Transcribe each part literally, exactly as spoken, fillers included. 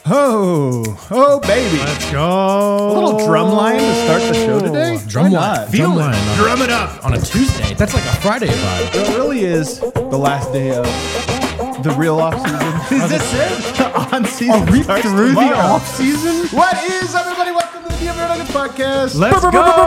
Oh, oh, baby. Let's go. A little drum line to start the show today? Drum Why line. not? Feel Drum it. line. Drum it up. On a Tuesday. That's like a Friday vibe. It really is the last day of the real off season. Is this it? The on season Are we starts through the tomorrow. off season? What is everybody? Welcome to the D M V R Nuggets podcast. Let's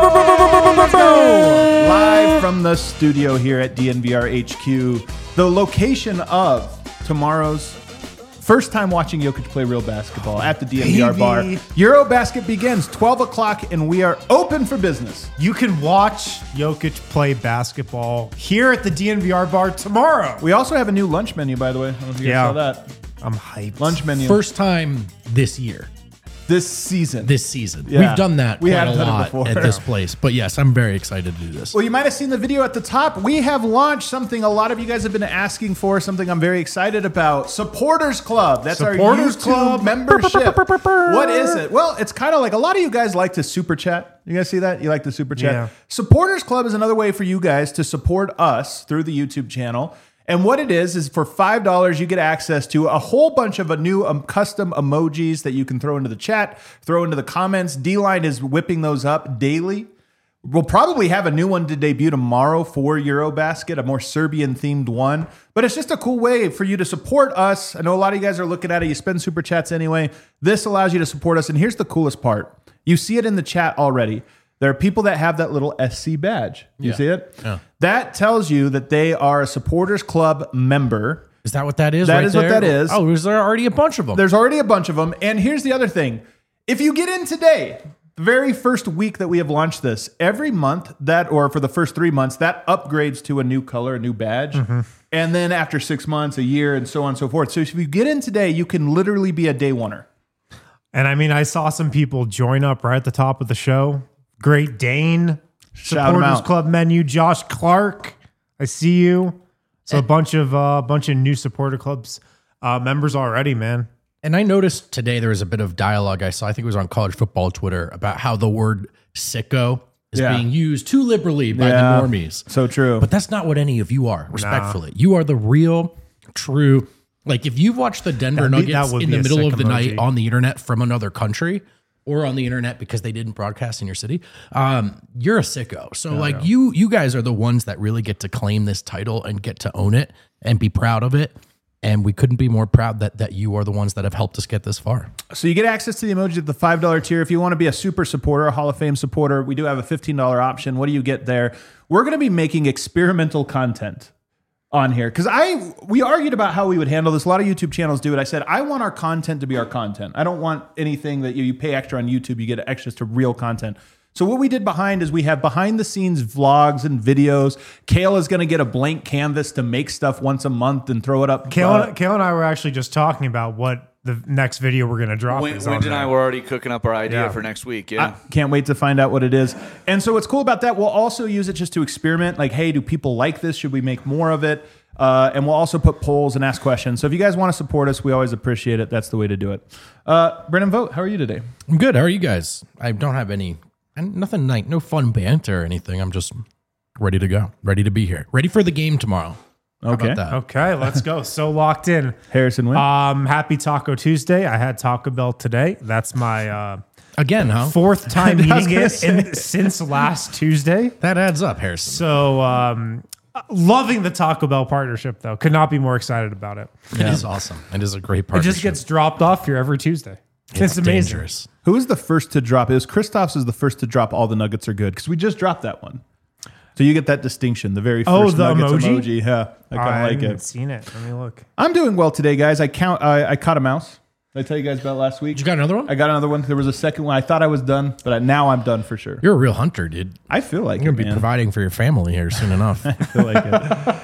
go. Let's go. Live from the studio here at D N V R H Q, the location of tomorrow's first time watching Jokic play real basketball at the D N V R Baby. bar. Eurobasket begins twelve o'clock and we are open for business. You can watch Jokic play basketball here at the D N V R bar tomorrow. We also have a new lunch menu, by the way. I don't know if you guys Yeah. saw that. I'm hyped. Lunch menu. First time this year, this season. this season. Yeah. We've done that We quite have a done it lot before. at this place. But yes, I'm very excited to do this. Well, you might have seen the video at the top. We have launched something a lot of you guys have been asking for, something I'm very excited about. Supporters Club. That's Supporters our YouTube Club. membership. What is it? Well, it's kind of like a lot of you guys like to super chat. You guys see that? You like the super chat? Yeah. Supporters Club is another way for you guys to support us through the YouTube channel. And what it is, is for five dollars, you get access to a whole bunch of a new um, custom emojis that you can throw into the chat, throw into the comments. D-Line is whipping those up daily. We'll probably have a new one to debut tomorrow for Eurobasket, a more Serbian-themed one. But it's just a cool way for you to support us. I know a lot of you guys are looking at it. You spend super chats anyway. This allows you to support us. And here's the coolest part. You see it in the chat already. There are people that have that little S C badge. You Yeah. see it? Yeah. That tells you that they are a Supporters Club member. Is that what that is? That right is what there? that is. Oh, is there already a bunch of them? There's already a bunch of them. And here's the other thing. If you get in today, the very first week that we have launched this, every month that, or for the first three months, that upgrades to a new color, a new badge. Mm-hmm. And then after six months, a year, and so on and so forth. So if you get in today, you can literally be a day oneer. And I mean, I saw some people join up right at the top of the show. Great Dane, Shout 'em Supporters out. Club menu, Josh Clark. I see you. So a bunch of uh, bunch of new supporter clubs uh, members already, man. And I noticed today there was a bit of dialogue I saw, I think it was on college football Twitter, about how the word sicko is Yeah. being used too liberally by Yeah. the normies. So true. But that's not what any of you are, respectfully. You are the real, true. Like if you've watched the Denver That'd be- that Nuggets would in be the a middle sick of the emoji. night on the internet from another country, or on the internet because they didn't broadcast in your city, um, you're a sicko. So like you, you guys are the ones that really get to claim this title and get to own it and be proud of it. And we couldn't be more proud that that you are the ones that have helped us get this far. So you get access to the emoji at the five dollar tier. If you want to be a super supporter, a Hall of Fame supporter, we do have a fifteen dollar option. What do you get there? We're going to be making experimental content on here. Because I we argued about how we would handle this. A lot of YouTube channels do it. I said, I want our content to be our content. I don't want anything that you, you pay extra on YouTube, you get access to real content. So what we did behind is we have behind the scenes vlogs and videos. Kale is going to get a blank canvas to make stuff once a month and throw it up. Kale, Uh, Kale and I were actually just talking about what the next video we're going to drop Win- is Wind on and I there. were already cooking up our idea Yeah. for next week. Yeah. I can't wait to find out what it is. And so what's cool about that, we'll also use it just to experiment. Like, hey, do people like this? Should we make more of it? Uh, and we'll also put polls and ask questions. So if you guys want to support us, we always appreciate it. That's the way to do it. Uh, Brennan Vogt, how are you today? I'm good. How are you guys? I don't have any, and nothing like, no fun banter or anything. I'm just ready to go, ready to be here, ready for the game tomorrow. How Okay. about that? Okay, let's go. So locked in. Harrison Wynn. Um, happy Taco Tuesday. I had Taco Bell today. That's my uh, Again, huh? fourth time I was eating gonna it in, since last Tuesday. That adds up, Harrison. So um, loving the Taco Bell partnership, though. Could not be more excited about it. It is awesome. It is a great It partnership. just gets dropped off here every Tuesday. It's, it's amazing. dangerous. Who was the first to drop? It was Christoph's is the first to drop all the nuggets are good because we just dropped that one. So you get that distinction, the very first Oh, the nuggets emoji? emoji. Yeah, I kind I of like haven't it. seen it. Let me look. I'm doing well today, guys. I count. I, I caught a mouse. Did I tell you guys about last week? You got another one? I got another one. There was a second one. I thought I was done, but I, now I'm done for sure. You're a real hunter, dude. I feel like You're it, going to be man. providing for your family here soon enough. I feel like it.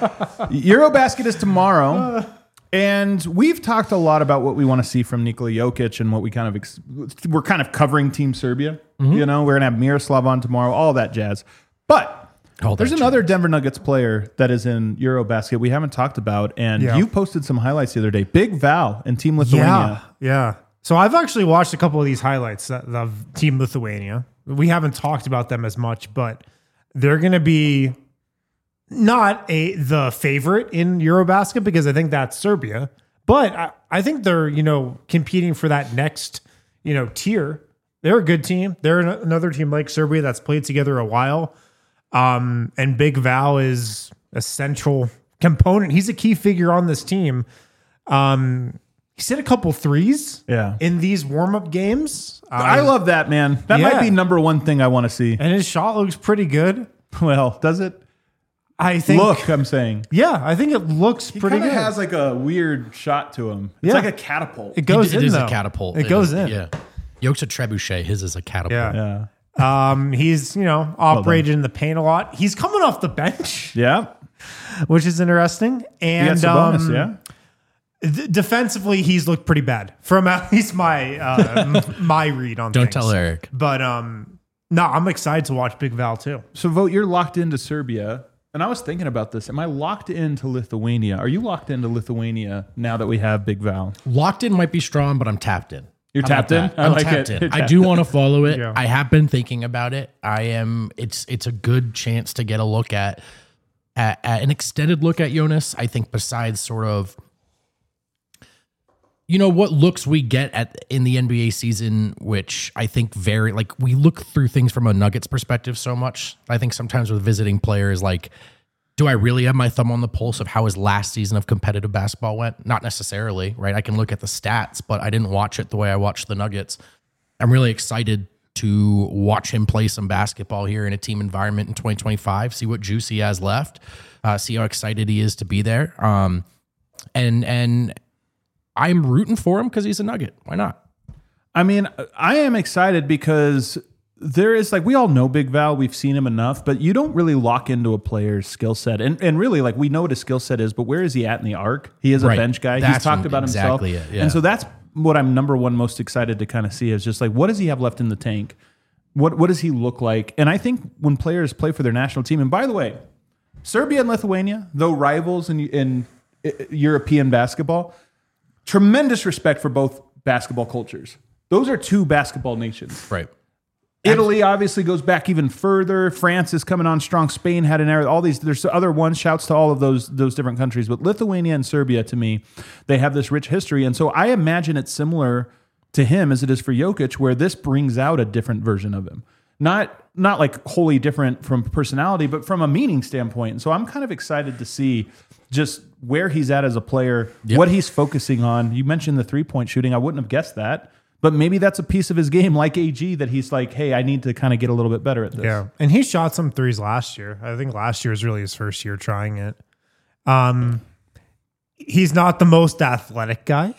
Eurobasket is tomorrow. And we've talked a lot about what we want to see from Nikola Jokic and what we kind of ex- we're kind of covering Team Serbia. You know, we're gonna have Miroslav on tomorrow, all that jazz. But All there's that another Denver Nuggets player that is in Eurobasket we haven't talked about, and Yeah. you posted some highlights the other day. Big Val and Team Lithuania. Yeah, yeah. So I've actually watched a couple of these highlights of Team Lithuania. We haven't talked about them as much, but they're going to be not a the favorite in Eurobasket because I think that's Serbia. But I, I think they're, you know, competing for that next, you know, tier. They're a good team. They're an, another team like Serbia that's played together a while. Um, and Big Val is a central component. He's a key figure on this team. Um, he's hit a couple threes Yeah. in these warm-up games. I Um, love that, man. That yeah. might be number one thing I want to see. and his shot looks pretty good. Well, does it? I think. Look, I'm saying. Yeah, I think it looks He pretty kind good. of has like a weird shot to him. It's Yeah. like a catapult. it goes it in is though. a catapult. It goes is, in. Yeah. Yoke's a trebuchet. His is a catapult. Yeah. Yeah. Um, he's, you know, operated in the paint a lot. He's coming off the bench, Yeah. which is interesting. He And gets a bonus, um, yeah. d- defensively, he's looked pretty bad from at least my uh, m- my read on Don't things. tell Eric. But um, no, I'm excited to watch Big Val too. So, Vote, you're locked into Serbia. And I was thinking about this. Am I locked into Lithuania? Are you locked into Lithuania now that we have Big Val? Locked in might be strong, but I'm tapped in. You're How about tapped in? that? I I'm like tapped it. in. You're I do want to follow it. Yeah. I have been thinking about it. I am. It's it's a good chance to get a look at, at, at an extended look at Jonas. I think besides sort of, you know, what looks we get at in the N B A season, which I think very like we look through things from a Nuggets perspective so much. I think sometimes with visiting players, like, do I really have my thumb on the pulse of how his last season of competitive basketball went? Not necessarily, right? I can look at the stats, but I didn't watch it the way I watched the Nuggets. I'm really excited to watch him play some basketball here in a team environment in twenty twenty-five, see what juice he has left, uh, see how excited he is to be there. Um, and and I'm rooting for him because he's a Nugget. Why not? I mean, I am excited because there is like, we all know Big Val, we've seen him enough, but you don't really lock into a player's skill set. And and really, like, we know what his skill set is, but where is he at in the arc? He is a Right. bench guy. That's He's talked about exactly himself. it, yeah. And so that's what I'm number one most excited to kind of see is just like, what does he have left in the tank? What what does he look like? And I think when players play for their national team, and by the way, Serbia and Lithuania, though rivals in, in European basketball, tremendous respect for both basketball cultures. Those are two basketball nations. Right. Italy obviously goes back even further. France is coming on strong. Spain had an era. All these, there's other ones. Shouts to all of those those different countries. But Lithuania and Serbia, to me, they have this rich history. And so I imagine it's similar to him as it is for Jokic, where this brings out a different version of him. Not not like wholly different from personality, but from a meaning standpoint. And so I'm kind of excited to see just where he's at as a player, Yep. what he's focusing on. You mentioned the three-point shooting. I wouldn't have guessed that. But maybe that's a piece of his game, like A G, that he's like, hey, I need to kind of get a little bit better at this. Yeah. And he shot some threes last year. I think last year was really his first year trying it. Um, he's not the most athletic guy,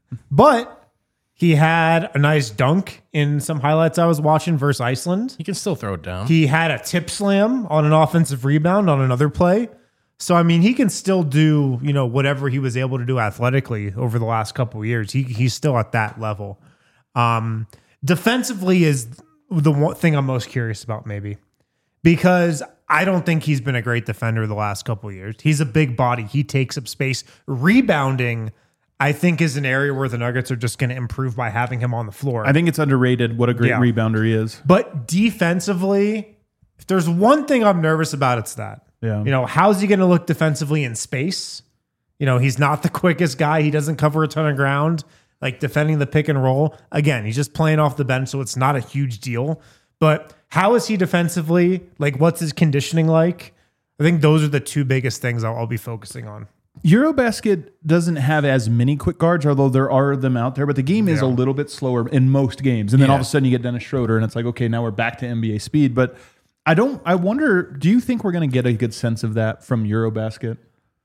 but he had a nice dunk in some highlights I was watching versus Iceland. He can still throw it down. He had a tip slam on an offensive rebound on another play. So, I mean, he can still do, you know, whatever he was able to do athletically over the last couple of years. He He's still at that level. Um, defensively is the one thing I'm most curious about, maybe, because I don't think he's been a great defender the last couple of years. He's a big body. He takes up space. Rebounding, I think, is an area where the Nuggets are just going to improve by having him on the floor. I think it's underrated what a great Yeah. rebounder he is. But defensively, if there's one thing I'm nervous about, it's that. Yeah. You know, how's he going to look defensively in space? You know, he's not the quickest guy. He doesn't cover a ton of ground. Like defending the pick and roll. Again, he's just playing off the bench, so it's not a huge deal. But how is he defensively? Like, what's his conditioning like? I think those are the two biggest things I'll, I'll be focusing on. Eurobasket doesn't have as many quick guards, although there are them out there, but the game is Yeah. a little bit slower in most games. And then Yeah. all of a sudden you get Dennis Schroeder and it's like, okay, now we're back to N B A speed. But I don't, I wonder, do you think we're going to get a good sense of that from Eurobasket?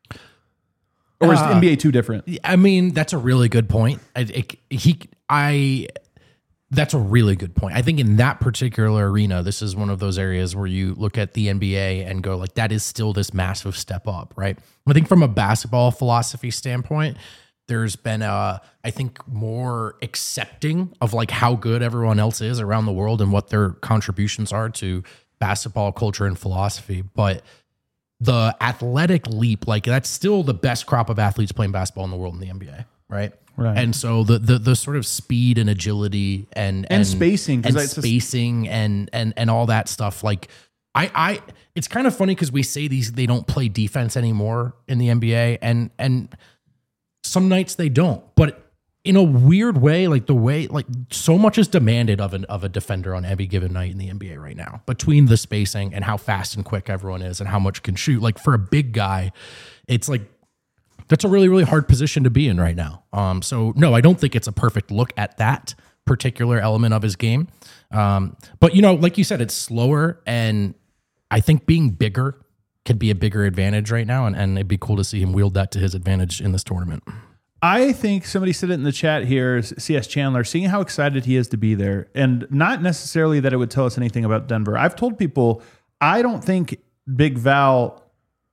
Or is Uh, N B A too different? I mean, that's a really good point. I, it, he, I, that's a really good point. I think in that particular arena, this is one of those areas where you look at the N B A and go like, that is still this massive step up, right? I think from a basketball philosophy standpoint, there's been a, I think, more accepting of like how good everyone else is around the world and what their contributions are to basketball culture and philosophy. But the athletic leap, like that's still the best crop of athletes playing basketball in the world in the N B A, right? Right. And so the the the sort of speed and agility and And spacing, 'cause and it's just- spacing and and and all that stuff. Like I I it's kind of funny because we say these they don't play defense anymore in the N B A, and and some nights they don't. But in a weird way, like the way, like so much is demanded of an of a defender on every given night in the N B A right now, between the spacing and how fast and quick everyone is and how much can shoot. Like for a big guy, it's like that's a really, really hard position to be in right now. Um, so no, I don't think it's a perfect look at that particular element of his game. Um, but you know, like you said, it's slower, and I think being bigger could be a bigger advantage right now, and, and it'd be cool to see him wield that to his advantage in this tournament. I think somebody said it in the chat here, C S Chandler, seeing how excited he is to be there, and not necessarily that it would tell us anything about Denver. I've told people, I don't think Big Val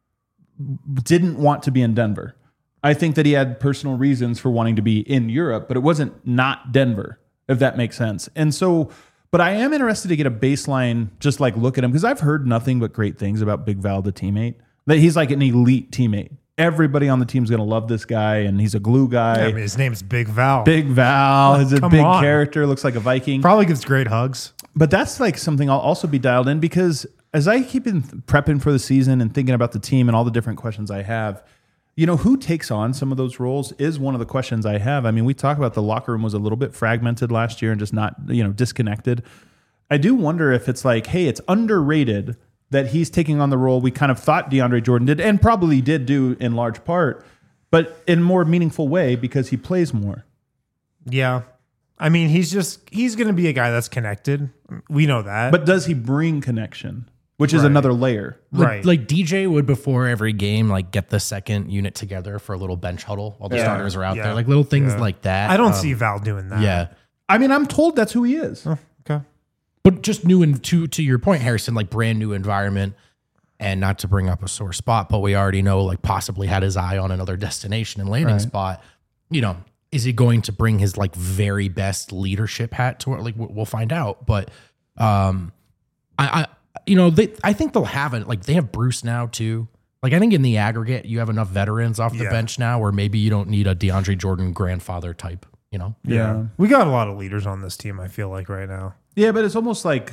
didn't want to be in Denver. I think that he had personal reasons for wanting to be in Europe, but it wasn't not Denver, if that makes sense. And so, but I am interested to get a baseline, just like look at him, because I've heard nothing but great things about Big Val, the teammate, that he's like an elite teammate. Everybody on the team's going to love this guy, and he's a glue guy. Yeah, I mean, his name's Big Val. Big Val. He's a Come big on. character, looks like a Viking. Probably gives great hugs. But that's like something I'll also be dialed in, because as I keep in prepping for the season and thinking about the team and all the different questions I have, you know, who takes on some of those roles is one of the questions I have. I mean, we talk about the locker room was a little bit fragmented last year and just not, you know, disconnected. I do wonder if it's like, hey, it's underrated that he's taking on the role we kind of thought DeAndre Jordan did, and probably did do in large part, but in a more meaningful way because he plays more. Yeah. I mean, he's just, he's going to be a guy that's connected. We know that. But does he bring connection, which is Right. another layer? Like, Right. like D J would before every game, like get the second unit together for a little bench huddle while the Yeah. starters are out Yeah. there, like little things Yeah. like that. I don't Um, see Val doing that. Yeah. I mean, I'm told that's who he is. Oh, okay. But just new and to to your point, Harrison, like brand new environment, and not to bring up a sore spot, but we already know like possibly had his eye on another destination and landing Right. spot. You know, is he going to bring his like very best leadership hat to it? Like we'll find out. But um, I, I you know they I think they'll have it. Like they have Bruce now too. Like I think in the aggregate, you have enough veterans off the Yeah. bench now where maybe you don't need a DeAndre Jordan grandfather type. You know. Yeah. We got a lot of leaders on this team, I feel like, right now. Yeah, but it's almost like,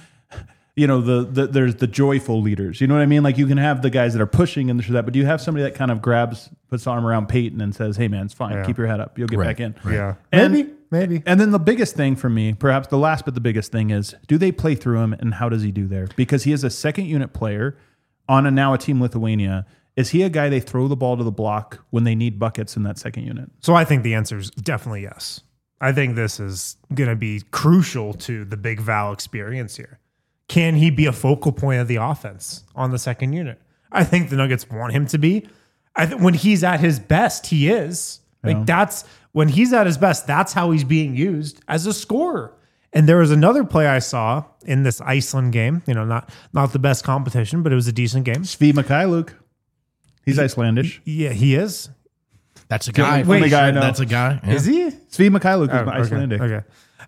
you know, the, the there's the joyful leaders. You know what I mean? Like you can have the guys that are pushing and this or that, but do you have somebody that kind of grabs, puts the arm around Peyton and says, "Hey, man, it's fine. Yeah. Keep your head up. You'll get Right. back in." Yeah. And- Maybe. Maybe. And then the biggest thing for me, perhaps the last but the biggest thing is, do they play through him, and how does he do there? Because he is a second unit player on a now a Team Lithuania. Is he a guy they throw the ball to the block when they need buckets in that second unit? So I think the answer is definitely yes. I think this is going to be crucial to the Big Val experience here. Can he be a focal point of the offense on the second unit? I think the Nuggets want him to be. I th- when he's at his best, he is. Like Yeah. that's when he's at his best, that's how he's being used as a scorer. And there was another play I saw in this Iceland game, you know, not not the best competition, but it was a decent game. Svi Mikhailuk. He's Icelandish. Yeah, he is. That's a guy. Wait, the guy I know. That's a guy. Yeah. Is he? Svi Mikhailuk is Oh, okay, Icelandic. Okay.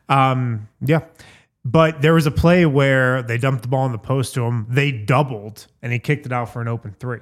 Um, yeah. But there was a play where they dumped the ball in the post to him. They doubled, and he kicked it out for an open three.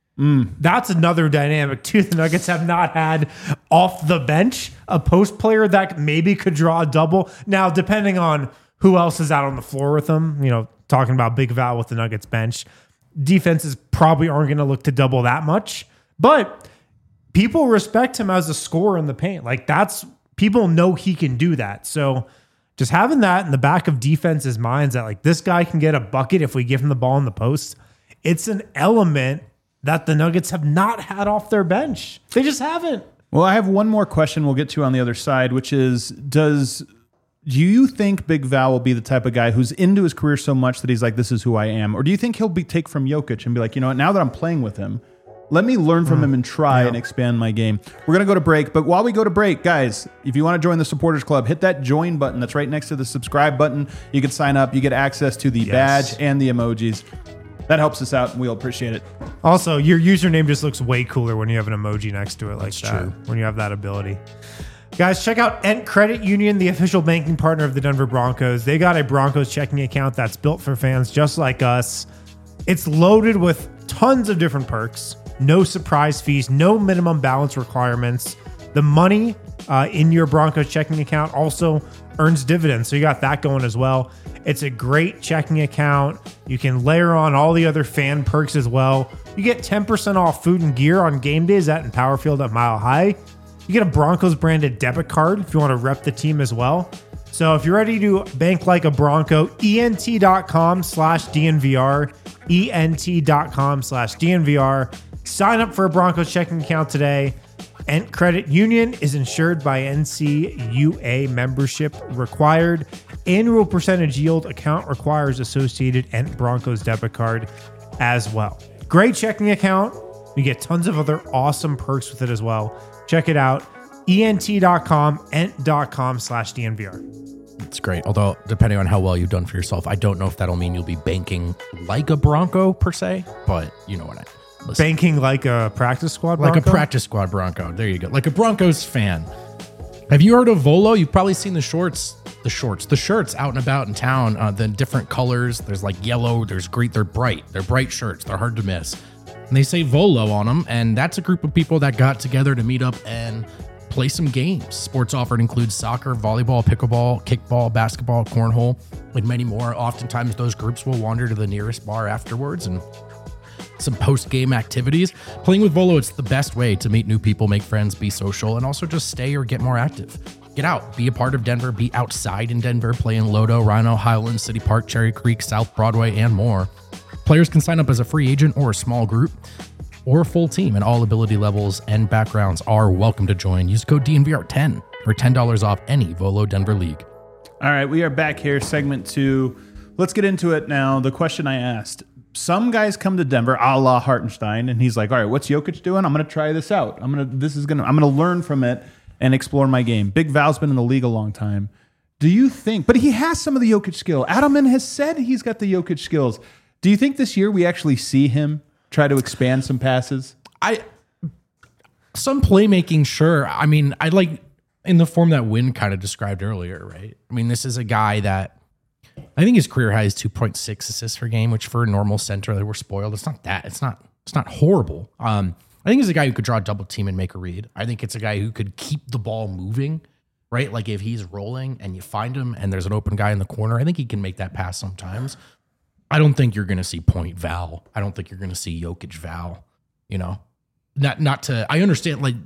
That's another dynamic, too. The Nuggets have not had off the bench a post player that maybe could draw a double. Now, depending on who else is out on the floor with them, you know, talking about Big Val with the Nuggets bench, defenses probably aren't going to look to double that much. But people respect him as a scorer in the paint. Like that's people know he can do that. So just having that in the back of defense's minds that like this guy can get a bucket if we give him the ball in the post, it's an element that the Nuggets have not had off their bench. They just haven't. Well, I have one more question we'll get to on the other side, which is, does do you think Big Val will be the type of guy who's into his career so much that he's like, this is who I am? Or do you think he'll be take from Jokic and be like, you know what, now that I'm playing with him, let me learn from him and try and expand my game. We're going to go to break. But while we go to break, guys, if you want to join the Supporters Club, hit that join button that's right next to the subscribe button. You can sign up. You get access to the Yes. badge and the emojis. That helps us out, and we'll appreciate it. Also, your username just looks way cooler when you have an emoji next to it like that. true. When you have that ability. Guys, check out Ent Credit Union, the official banking partner of the Denver Broncos. They got a Broncos checking account that's built for fans just like us. It's loaded with tons of different perks, no surprise fees, no minimum balance requirements. The money uh, in your Broncos checking account also earns dividends. So you got that going as well. It's a great checking account. You can layer on all the other fan perks as well. You get ten percent off food and gear on game days at Empower Field at Mile High. You get a Broncos branded debit card if you want to rep the team as well. So if you're ready to bank like a Bronco, ent.com slash DNVR, ent.com slash DNVR. Sign up for a Broncos checking account today. Ent Credit Union is insured by N C U A, membership required. Annual percentage yield account requires associated Ent Broncos debit card as well. Great checking account. You get tons of other awesome perks with it as well. Check it out. ent.com, ent.com slash DNVR. It's great. Although, depending on how well you've done for yourself, I don't know if that'll mean you'll be banking like a Bronco per se, but you know what I listen. Banking like a practice squad Like Bronco? a practice squad Bronco. There you go. Like a Broncos fan. Have you heard of Volo? You've probably seen the shorts, the shorts, the shirts out and about in town, uh, the different colors. There's like yellow, there's great, they're bright. They're bright shirts. They're hard to miss. And they say Volo on them. And that's a group of people that got together to meet up and play some games. Sports offered includes soccer, volleyball, pickleball, kickball, basketball, cornhole, and many more. Oftentimes those groups will wander to the nearest bar afterwards and some post-game activities. Playing with Volo, it's the best way to meet new people, make friends, be social, and also just stay or get more active. Get out, be a part of Denver, be outside in Denver, play in Lodo, Rhino, Highlands, City Park, Cherry Creek, South Broadway, and more. Players can sign up as a free agent or a small group or a full team, and all ability levels and backgrounds are welcome to join. Use code D N V R ten for ten dollars off any Volo Denver League. All right, we are back here, segment two. Let's get into it now. The question I asked. Some guys come to Denver, a la Hartenstein, and he's like, all right, what's Jokic doing? I'm going to try this out. I'm going to, this is going to, I'm going to learn from it and explore my game. Big Val's been in the league a long time. Do you think, but he has some of the Jokic skill. Adelman has said he's got the Jokic skills. Do you think this year we actually see him try to expand some passes? I, some playmaking, sure. I mean, I like in the form that Wynn kind of described earlier, right? I mean, this is a guy that, I think his career high is two point six assists per game, which for a normal center that we're spoiled, it's not that. It's not it's not horrible. Um, I think he's a guy who could draw a double team and make a read. I think it's a guy who could keep the ball moving, right? Like if he's rolling and you find him and there's an open guy in the corner, I think he can make that pass sometimes. I don't think you're going to see point Val. I don't think you're going to see Jokic Val, you know? Not not to, I understand, like,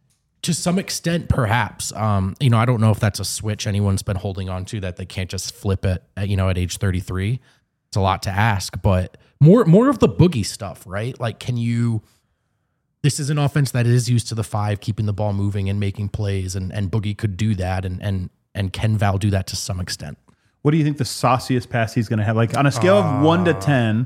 to some extent, perhaps, um, you know, I don't know if that's a switch anyone's been holding on to that they can't just flip it, at, you know, at age thirty-three. It's a lot to ask, but more, more of the boogie stuff, right? Like, can you, this is an offense that is used to the five, keeping the ball moving and making plays, and, and Boogie could do that. And, and, and can Val do that to some extent? What do you think the sauciest pass he's going to have? Like on a scale uh, of one to ten,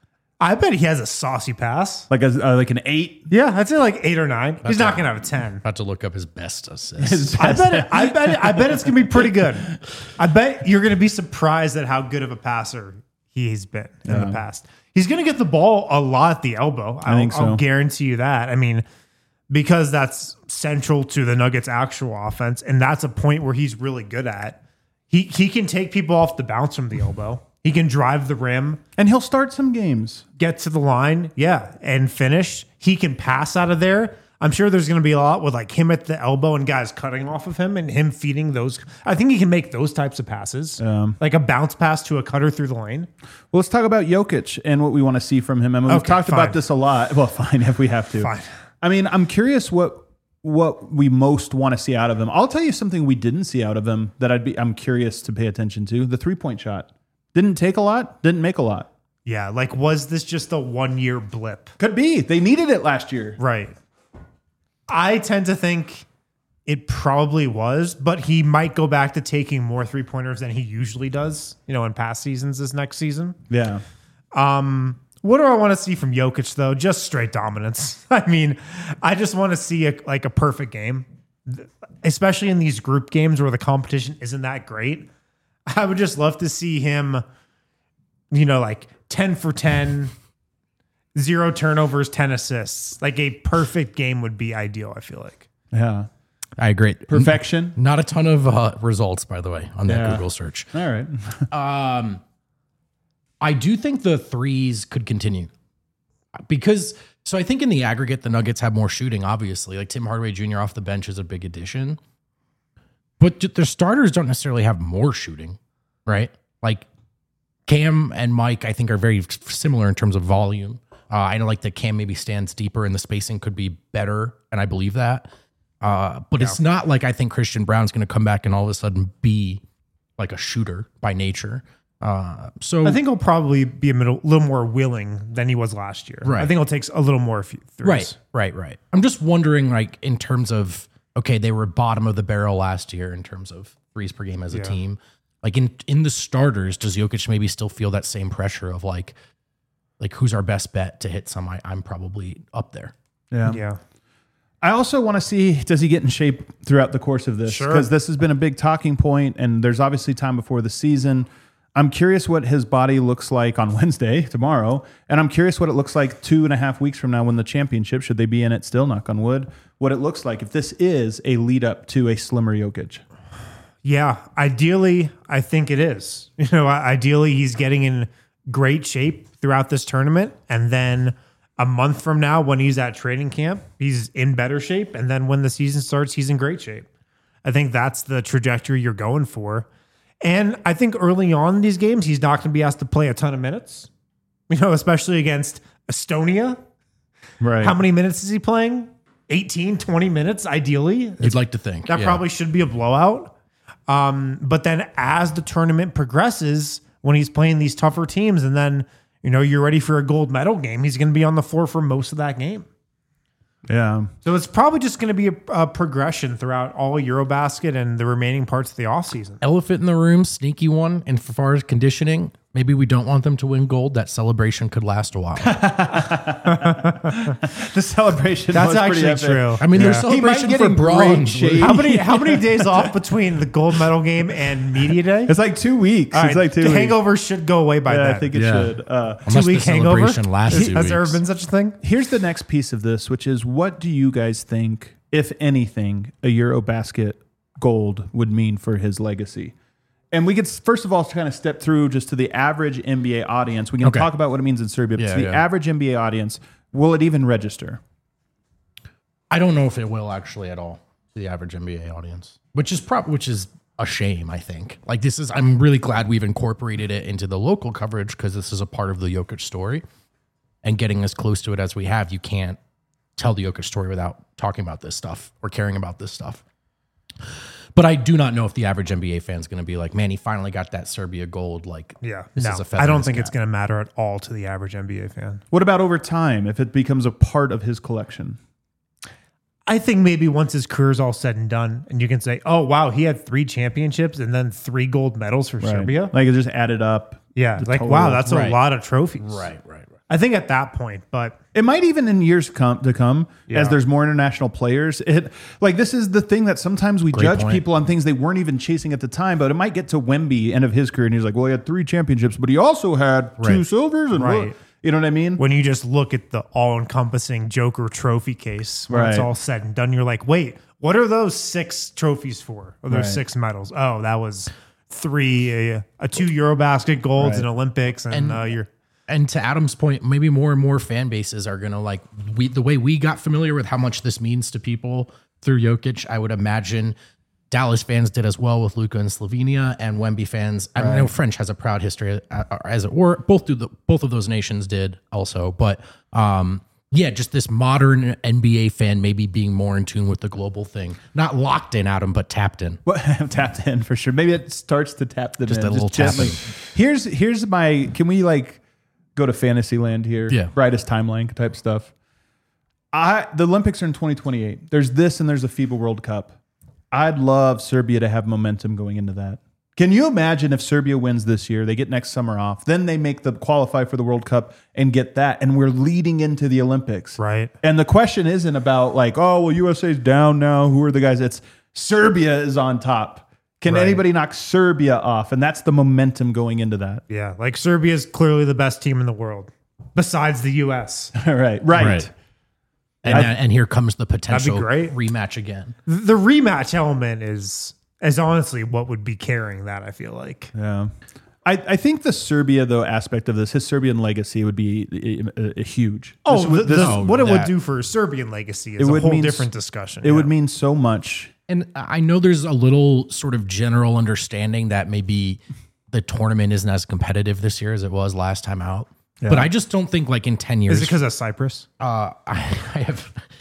I bet he has a saucy pass. Like a uh, like an eight. Yeah, I'd say like eight or nine. That's He's not a, gonna have a ten. About to look up his best assists. His I best bet. It, I bet. It, I bet it's gonna be pretty good. I bet you're gonna be surprised at how good of a passer he's been in Yeah. the past. He's gonna get the ball a lot at the elbow. I I'll, think so. I'll guarantee you that. I mean, because that's central to the Nuggets' actual offense, and that's a point where he's really good at. He he can take people off the bounce from the elbow. He can drive the rim, and he'll start some games. get to the line, yeah, and finish. He can pass out of there. I'm sure there's going to be a lot with like him at the elbow and guys cutting off of him and him feeding those. I think he can make those types of passes, Um, like a bounce pass to a cutter through the lane. Well, let's talk about Jokic and what we want to see from him. I mean, we've Okay, talked fine. about this a lot. Well, fine, if we have to. Fine. I mean, I'm curious what what we most want to see out of him. I'll tell you something we didn't see out of him that I'd be I'm curious to pay attention to. The three-point shot. Didn't take a lot, didn't make a lot. Yeah, like was this just a one year blip? Could be. They needed it last year. Right. I tend to think it probably was, but he might go back to taking more three pointers than he usually does, you know, in past seasons this next season. Yeah. Um, what do I want to see from Jokic though? Just straight dominance. I mean, I just want to see a, like a perfect game, especially in these group games where the competition isn't that great. I would just love to see him, you know, like ten for ten, zero turnovers, ten assists. Like a perfect game would be ideal, I feel like. Yeah. I agree. Perfection. Not a ton of uh, results, by the way, on that Yeah. Google search. All right. Um, I do think the threes could continue because, so I think in the aggregate, the Nuggets have more shooting, obviously. Like Tim Hardaway Junior off the bench is a big addition. But their starters don't necessarily have more shooting, right? Like Cam and Mike, I think, are very similar in terms of volume. Uh, I know like that Cam maybe stands deeper and the spacing could be better, and I believe that. Uh, but it's not like I think Christian Brown's going to come back and all of a sudden be like a shooter by nature. Uh, so I think he'll probably be a little, little more willing than he was last year. Right. I think he'll take a little more threes. Right, right, right. I'm just wondering, like, in terms of, okay, they were bottom of the barrel last year in terms of threes per game as a Yeah. team. Like in in the starters, does Jokic maybe still feel that same pressure of like, like who's our best bet to hit some? I, I'm probably up there. Yeah. Yeah. I also want to see, does he get in shape throughout the course of this? Sure. Because this has been a big talking point, and there's obviously time before the season. I'm curious what his body looks like on Wednesday, tomorrow, and I'm curious what it looks like two and a half weeks from now when the championship, should they be in it still, knock on wood, what it looks like if this is a lead up to a slimmer Jokic. Yeah, ideally, I think it is. You know, ideally, he's getting in great shape throughout this tournament, and then a month from now, when he's at training camp, he's in better shape, and then when the season starts, he's in great shape. I think that's the trajectory you're going for, and I think early on in these games, he's not going to be asked to play a ton of minutes. You know, especially against Estonia. Right. How many minutes is he playing? eighteen, twenty minutes, ideally. You'd like to think That yeah. probably should be a blowout. Um, but then as the tournament progresses, when he's playing these tougher teams, and then, you know, you're ready for a gold medal game, he's going to be on the floor for most of that game. Yeah. So it's probably just going to be a, a progression throughout all Eurobasket and the remaining parts of the offseason. Elephant in the room, sneaky one. And as far as conditioning, maybe we don't want them to win gold. That celebration could last a while. The celebration That's was pretty actually epic. true. I mean, Yeah. there's He might celebration get for in great bronze. shape. How many how many days off between the gold medal game and media day? It's like two weeks. All It's right, like two the weeks. hangover should go away by Yeah, then. I think it Yeah. should. Uh, Unless Two week the hangover. celebration lasts two Has there ever weeks. been such a thing? Here's the next piece of this, which is what do you guys think, if anything, a Eurobasket gold would mean for his legacy? And we could, first of all, kind of step through just to the average N B A audience. We can Okay. talk about what it means in Serbia, but Yeah, to the yeah. average N B A audience, will it even register? I don't know if it will actually at all to the average N B A audience, which is prob- which is a shame. I think like this is. I'm really glad we've incorporated it into the local coverage because this is a part of the Jokic story, and getting as close to it as we have, you can't tell the Jokic story without talking about this stuff or caring about this stuff. But I do not know if the average N B A fan is going to be like, man, he finally got that Serbia gold. Like, Yeah. this No, is a feather I in don't his think it's cap. going to matter at all to the average N B A fan. What about over time, if it becomes a part of his collection? I think maybe once his career's all said and done, and you can say, oh, wow, he had three championships and then three gold medals for Serbia. Like it just added up. Yeah. the Like, total. wow, that's Right. a lot of trophies. Right, right, right. I think at that point, but It might even in years come to come Yeah. as there's more international players. It like this is the thing that sometimes we Great judge point. people on things they weren't even chasing at the time. But it might get to Wemby end of his career and he's like, well, he had three championships, but he also had two Right. silvers and Right. what- you know what I mean? when you just look at the all encompassing Joker trophy case, when it's Right. all said and done, you're like, wait, what are those six trophies for? Or those Right. six medals? Oh, that was three, uh, a two Eurobasket golds Right. and Olympics. And, And- uh, you're, And to Adam's point, maybe more and more fan bases are going to like we the way we got familiar with how much this means to people through Jokic. I would imagine Dallas fans did as well with Luka and Slovenia, and Wemby fans. I know French has a proud history uh, as it were. Both do the both of those nations did also, but um, yeah, just this modern N B A fan maybe being more in tune with the global thing, not locked in, Adam, but tapped in. What tapped in for sure. Maybe it starts to tap them Just in, a little gently. tapping. Here's here's my. Can we like go to fantasy land here? Yeah. Brightest timeline type stuff. I the Olympics are in twenty twenty-eight. There's this and there's a FIBA World Cup. I'd love Serbia to have momentum going into that. Can you imagine if Serbia wins this year? They get next summer off. Then they make the qualify for the World Cup and get that. And we're leading into the Olympics. right. And the question isn't about like, oh, well, U S A's down now. Who are the guys? It's Serbia is on top. Can Right. anybody knock Serbia off? And that's the momentum going into that. Yeah. Like Serbia is clearly the best team in the world besides the U S. All right. Right. Right. And I- and here comes the potential great. rematch again. The rematch element is, is honestly what would be carrying that, I feel like. Yeah. I, I think the Serbia, though, aspect of this, his Serbian legacy would be uh, uh, huge. Oh, This would- the- this- the- oh, what it would that- do for Serbian legacy is It a would whole mean different s- discussion. it yeah. would mean so much. And I know there's a little sort of general understanding that maybe the tournament isn't as competitive this year as it was last time out. But I just don't think like in ten years. Is it because of Cyprus? uh, I, I have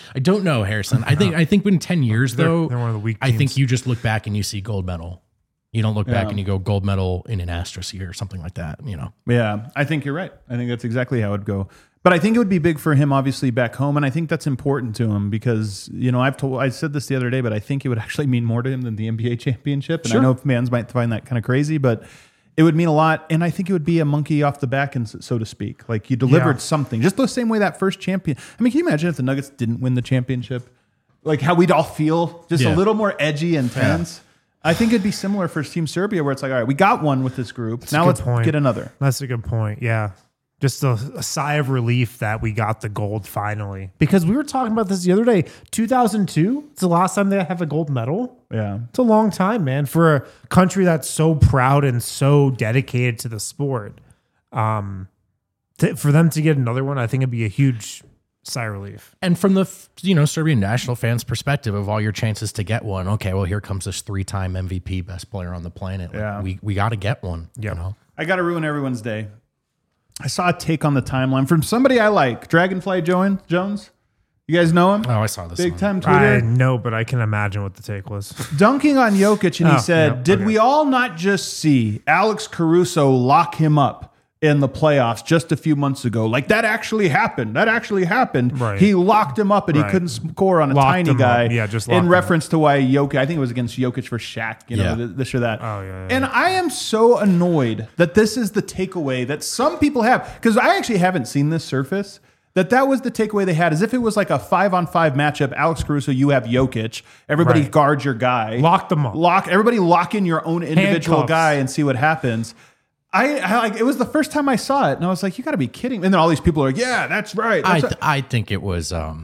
I don't know, Harrison. I think I think in ten years They're- though, they're one of the weak I think teams. you just look back and you see gold medal. You don't look back Yeah. and you go gold medal in an asterisk here or something like that. You know, Yeah, I think you're right. I think that's exactly how it would go. But I think it would be big for him, obviously, back home, and I think that's important to him because you know I've told I said this the other day, but I think it would actually mean more to him than the N B A championship. And Sure. I know fans might find that kind of crazy, but it would mean a lot. And I think it would be a monkey off the back, and so to speak. Like you delivered Yeah. something, just the same way that first champion. I mean, can you imagine if the Nuggets didn't win the championship? Like how we'd all feel, just Yeah. a little more edgy and tense. I think it'd be similar for Team Serbia, where it's like, all right, we got one with this group. now a good let's point. get another. That's a good point. Yeah. Just a, a sigh of relief that we got the gold finally. Because we were talking about this the other day. two thousand two, it's the last time they have a gold medal. Yeah. It's a long time, man, for a country that's so proud and so dedicated to the sport. Um, to, for them to get another one, I think it'd be a huge sigh of relief. and from the you know Serbian national fans' perspective of all your chances to get one, okay, well here comes this three-time M V P, best player on the planet. Like, Yeah. we we got to get one. Yeah. You know? I got to ruin everyone's day. I saw a take on the timeline from somebody I like, Dragonfly Joan- Jones. You guys know him? Oh, I saw this. Big on- time I Twitter. know, but I can imagine what the take was. Dunking on Jokic, and he Oh, said, yeah, did okay. we all not just see Alex Caruso lock him up in the playoffs just a few months ago? Like, that actually happened. That actually happened. Right. He locked him up, and he Right. couldn't score on a Locked tiny him guy. up. Yeah, just locked in him reference to why Jokic, I think it was against Jokic for Shaq, you know, Yeah. th- this or that. Oh, yeah, yeah. And I am so annoyed that this is the takeaway that some people have, because I actually haven't seen this surface. That that was the takeaway they had, as if it was like a five on five matchup. Alex Caruso, you have Jokic. Everybody Right. guard your guy. Lock them up. Lock everybody. Lock in your own individual Handcuffs. guy and see what happens. I, I like. It was the first time I saw it, and I was like, "You got to be kidding!" And then all these people are like, "Yeah, that's right." I That's th- right." I think it was. Um,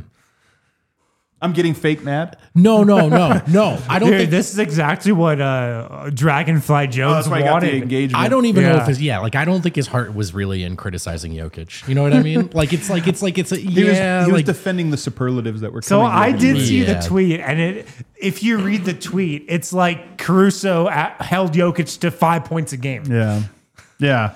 I'm getting fake mad. no, no, no, no. I don't Dude, think. this is exactly what uh, Dragonfly Oh, Jones that's why I got the wanted. engagement. I don't even know Yeah. if his yeah, like I don't think his heart was really in criticizing Jokic. You know what I mean? Like it's like it's like it's a He was, yeah, he was like defending the superlatives that were. So coming I with did him. see Yeah. the tweet, and it. If you read the tweet, it's like Caruso at, held Jokic to five points a game. Yeah, yeah.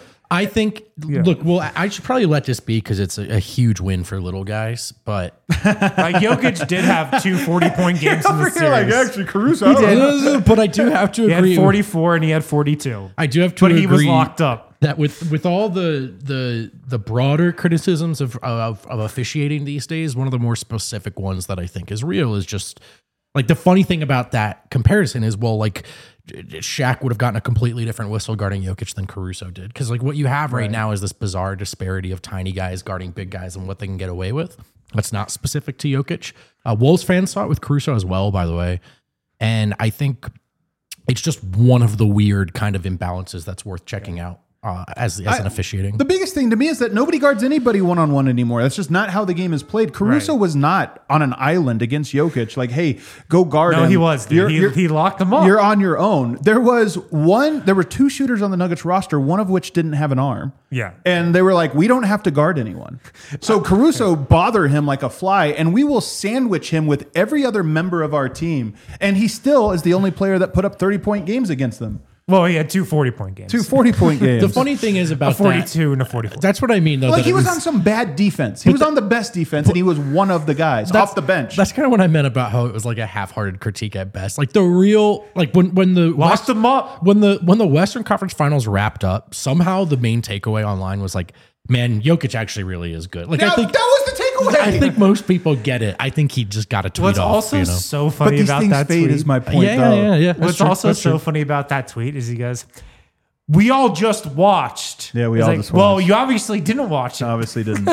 I think. Look, well, I should probably let this be because it's a, a huge win for little guys. But Like Jokic did have two forty-point games in the Over here, like series. actually, Caruso. I don't know. but I do have to He had agree. forty-four and he had forty-two. I do have to But agree he was locked up. that with with all the the the broader criticisms of, of of officiating these days, one of the more specific ones that I think is real is just like the funny thing about that comparison is well, like Shaq would have gotten a completely different whistle guarding Jokic than Caruso did because like what you have right, now is this bizarre disparity of tiny guys guarding big guys and what they can get away with. That's not specific to Jokic. Uh, Wolves fans saw it with Caruso as well, by the way, and I think it's just one of the weird kind of imbalances that's worth checking out uh, as as an I- officiating. The biggest thing to me is that nobody guards anybody one on one anymore. That's just not how the game is played. Caruso Right. was not on an island against Jokic. Like, hey, go guard No, him. he was. Dude. You're- He, you're- he locked them up. You're on your own. There was one, there were two shooters on the Nuggets roster, one of which didn't have an arm. Yeah. And they were like, we don't have to guard anyone. So Caruso bother him like a fly, and we will sandwich him with every other member of our team. And he still is the only player that put up thirty point games against them. Well, he had two forty-point games. Two forty point games. The funny thing is a about that, forty-two and a forty-four. that's what I mean though. like that he it was on some bad defense. He was on the best defense, and he was one of the guys off the bench. That's kind of what I meant about how it was like a half-hearted critique at best. Like the real, like when when the Locked West- them up. when the when the Western Conference Finals wrapped up. Somehow the main takeaway online was like, man, Jokic actually really is good. Like Now, I think that was the takeaway. I think most people get it. I think he just got a tweet What's off. also you know? so but funny these about things that fade tweet is my point. yeah, though. yeah, yeah, yeah. That's What's true. also That's so true. funny about that tweet is he goes, "We all just watched." Yeah, we It's all like, just Well, watched. you obviously didn't watch it. Obviously didn't.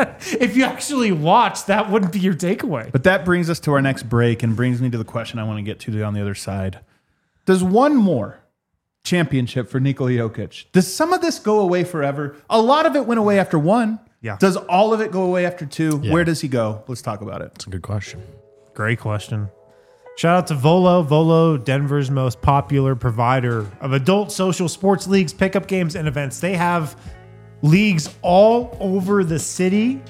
If you actually watched, that wouldn't be your takeaway. But that brings us to our next break and brings me to the question I want to get to on the other side. Does one more championship for Nikola Jokic, does some of this go away forever? A lot of it went away after one. Yeah. Does all of it go away after two? Yeah. Where does he go? Let's talk about it. That's a good question. Great question. Shout out to Volo. Volo, Denver's most popular provider of adult social sports leagues, pickup games, and events. They have leagues all over the city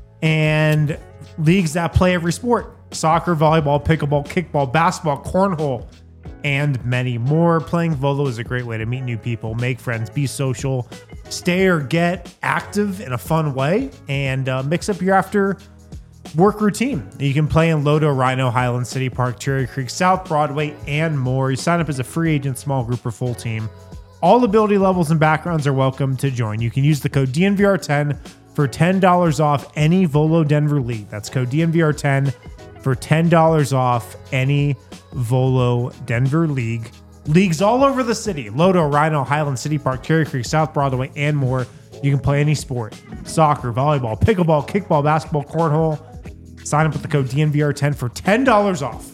and leagues that play every sport. Soccer, volleyball, pickleball, kickball, basketball, cornhole, and many more. Playing Volo is a great way to meet new people, make friends, be social, stay or get active in a fun way, and uh, mix up your after work routine. You can play in Lodo, Rhino, Highland City Park, Cherry Creek, South Broadway, and more. You sign up as a free agent, small group, or full team. All ability levels and backgrounds are welcome to join. You can use the code D N V R ten for ten dollars off any Volo Denver league. That's code D N V R ten for ten dollars off any Volo Denver league. Leagues all over the city. Lodo, Rhino, Highland City Park, Cherry Creek, South Broadway, and more. You can play any sport. Soccer, volleyball, pickleball, kickball, basketball, cornhole. Sign up with the code D N V R ten for ten dollars off.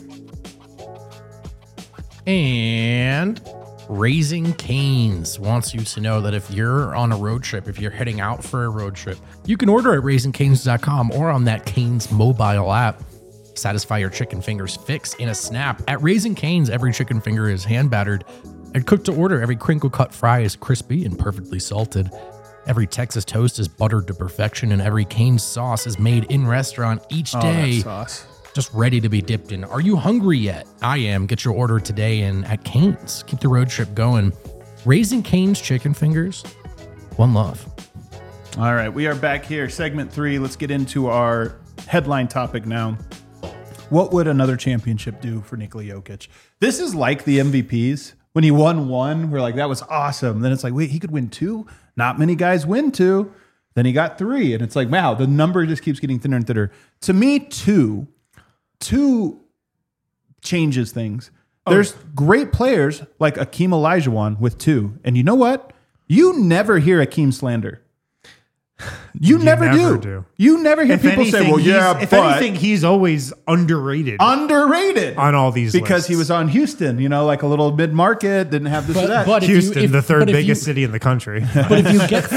And Raising Cane's wants you to know that if you're on a road trip, if you're heading out for a road trip, you can order at raising canes dot com or on that Cane's mobile app. Satisfy your chicken fingers fix in a snap. At Raising Cane's, every chicken finger is hand battered and cooked to order. Every crinkle cut fry is crispy and perfectly salted. Every Texas toast is buttered to perfection, and every Cane's sauce is made in restaurant each day, Oh, that sauce. just ready to be dipped in. Are you hungry yet? I am. Get your order today and at Cane's. Keep the road trip going. Raising Cane's chicken fingers. One love. All right, we are back here. Segment three. Let's get into our headline topic now. What would another championship do for Nikola Jokic? This is like the M V Ps. When he won one, we're like, that was awesome. Then it's like, wait, he could win two? Not many guys win two. Then he got three. And it's like, wow, the number just keeps getting thinner and thinner. To me, two, two changes things. Oh. There's great players like Akeem Olajuwon with two. And you know what? You never hear Akeem slander. You, You never, never do. do. You never hear If people say, anything, well, yeah, he's- if but anything, he's always underrated underrated on all these because lists. he was on Houston, you know, like a little mid market, didn't have this or that. but if you- Houston, if- the third but if biggest you- city in the country. But if you get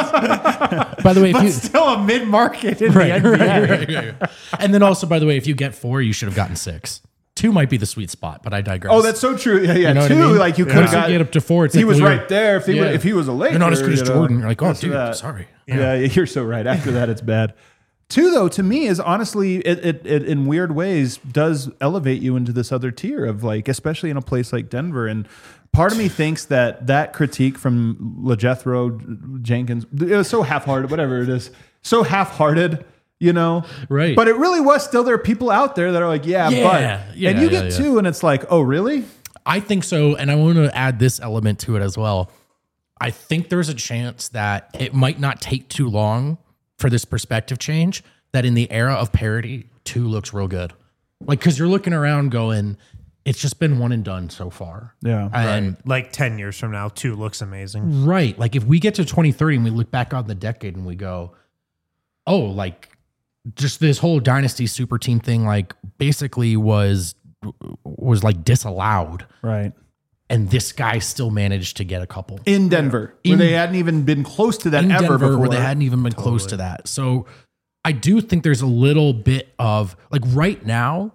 four, by the way, if But you, still a mid-market in right, the N B A. right, right, right, right. And then also, by the way, if you get four, you should have gotten six. Two might be the sweet spot, but I digress. Oh, that's so true. Yeah, yeah. You know what Two, I mean? like you could Once have you got get up to four, it's he like, was well, right you're- there. If he yeah. were, if he was a Laker, You're not as good as you know, Jordan. You're like, oh, this or dude, that. sorry. Yeah. You're so right. After that, it's bad. Two, though, to me is honestly, it, it, it in weird ways does elevate you into this other tier of like, especially in a place like Denver. And part of me thinks that that critique from LeJethro Jenkins, it was so half-hearted, whatever it is, so half-hearted. You know, Right. But it really was still there are people out there that are like, yeah, Yeah, but, yeah, and you yeah, get yeah. two, and it's like, oh, really? I think so. And I want to add this element to it as well. I think there's a chance that it might not take too long for this perspective change, that in the era of parity, two looks real good. Like, because you're looking around going, it's just been one and done so far. Yeah. And Like ten years from now, two looks amazing. right. Like, if we get to twenty thirty and we look back on the decade and we go, oh, like, just this whole dynasty super team thing, like, basically was was like disallowed. Right. And this guy still managed to get a couple In Denver, In- where they hadn't even been close to that in ever Denver before. where they hadn't even been close to that. So I do think there's a little bit of like right now,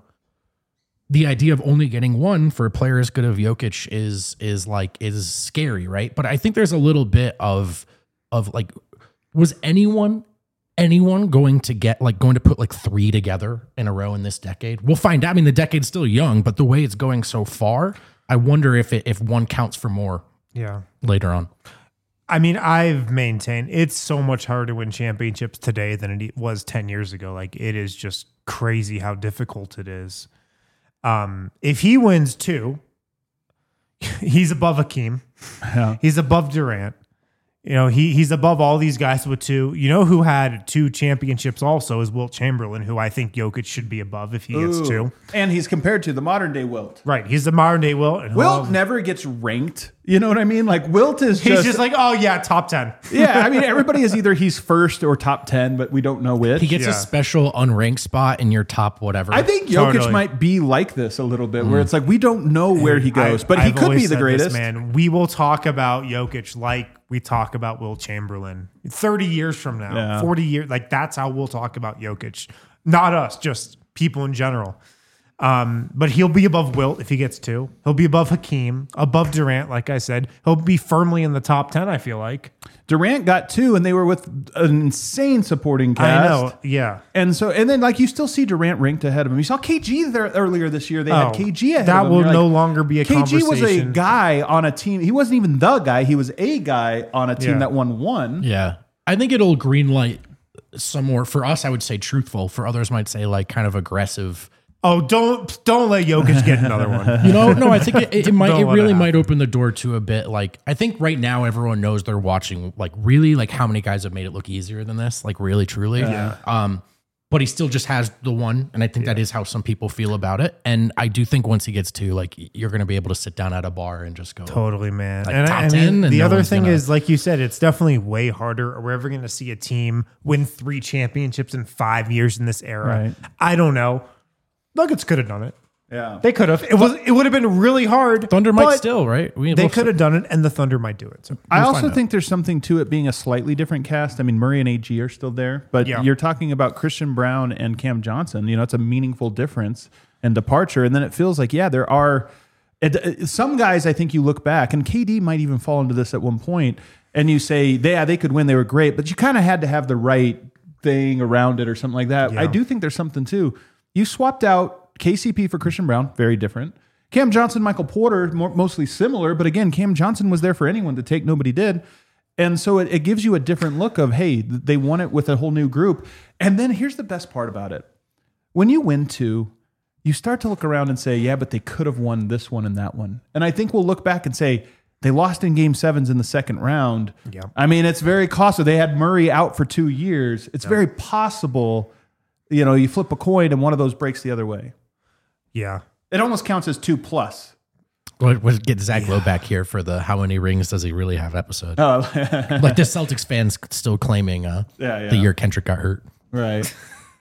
the idea of only getting one for a player as good as Jokic is is like is scary, right? But I think there's a little bit of of like, was anyone anyone going to get like going to put like three together in a row in this decade? We'll find out. I mean, the decade's still young, but the way it's going so far, I wonder if it if one counts for more Yeah. later on. I mean, I've maintained it's so much harder to win championships today than it was ten years ago. Like, it is just crazy how difficult it is. Um, if he wins two, he's above Akeem. Yeah. He's above Durant. You know, he he's above all these guys with two. You know who had two championships also is Wilt Chamberlain, who I think Jokic should be above if he gets Ooh. two. And he's compared to the modern day Wilt. Right. He's the modern day Wilt. And Wilt he'll- never gets ranked. You know what I mean? Like Wilt is he's just, just like, oh yeah, top ten. yeah. I mean, everybody is either he's first or top ten, but we don't know which. He gets Yeah. a special unranked spot in your top whatever. I think Jokic Totally. might be like this a little bit, where it's like we don't know where he goes, I- but he I've could always be the said greatest. this, man. We will talk about Jokic like we talk about Wilt Chamberlain thirty years from now, Yeah. forty years. Like, that's how we'll talk about Jokic. Not us, just people in general. Um, but he'll be above Wilt if he gets two. He'll be above Hakeem, above Durant, like I said. He'll be firmly in the top ten, I feel like. Durant got two, and they were with an insane supporting cast. I know. Yeah. And so, and then like you still see Durant ranked ahead of him. You saw K G there earlier this year. They had Oh, K G ahead that of him. will You're no like, longer be a K G was a conversation. guy on a team. He wasn't even the guy. He was a guy on a team Yeah. that won one. yeah. I think it'll greenlight some more, for us, I would say truthful. For others might say like kind of aggressive. Oh, don't don't let Jokic get another one. You know, no, I think it, it might, Don't it let really it might open the door to a bit. Like, I think right now everyone knows they're watching, like, really, like, how many guys have made it look easier than this? Like, really, truly. Yeah. Um, but he still just has the one. And I think that is how some people feel about it. And I do think once he gets to, like, you're going to be able to sit down at a bar and just go. Totally, man. Like and top I, I ten, mean, and the no other one's thing gonna- is, like you said, it's definitely way harder. We're ever going to see a team win three championships in five years in this era. Right. I don't know. Nuggets could have done it. Yeah. They could have. It was. It would have been really hard. Thunder might but still, right? We, They we'll could have done it, and the Thunder might do it. So I We'll also find out. think there's something to it being a slightly different cast. I mean, Murray and A G are still there, but Yeah. you're talking about Christian Brown and Cam Johnson. You know, it's a meaningful difference and departure. And then it feels like, yeah, there are it, it- some guys I think you look back, and K D might even fall into this at one point, and you say, yeah, they could win, they were great, but you kind of had to have the right thing around it or something like that. Yeah. I do think there's something too. You swapped out K C P for Christian Brown, very different. Cam Johnson, Michael Porter, more, mostly similar, but again, Cam Johnson was there for anyone to take, nobody did. And so it, it gives you a different look of, hey, th- they won it with a whole new group. And then here's the best part about it. When you win two, you start to look around and say, yeah, but they could have won this one and that one. And I think we'll look back and say, they lost in game sevens in the second round. Yeah. I mean, it's very costly. They had Murray out for two years. It's very possible, you know, you flip a coin and one of those breaks the other way. yeah. It almost counts as two plus. We'll, we'll get Zach Lowe back here for the how many rings does he really have episode. Oh, Like the Celtics fans still claiming uh, Yeah, yeah. the year Kendrick got hurt. right.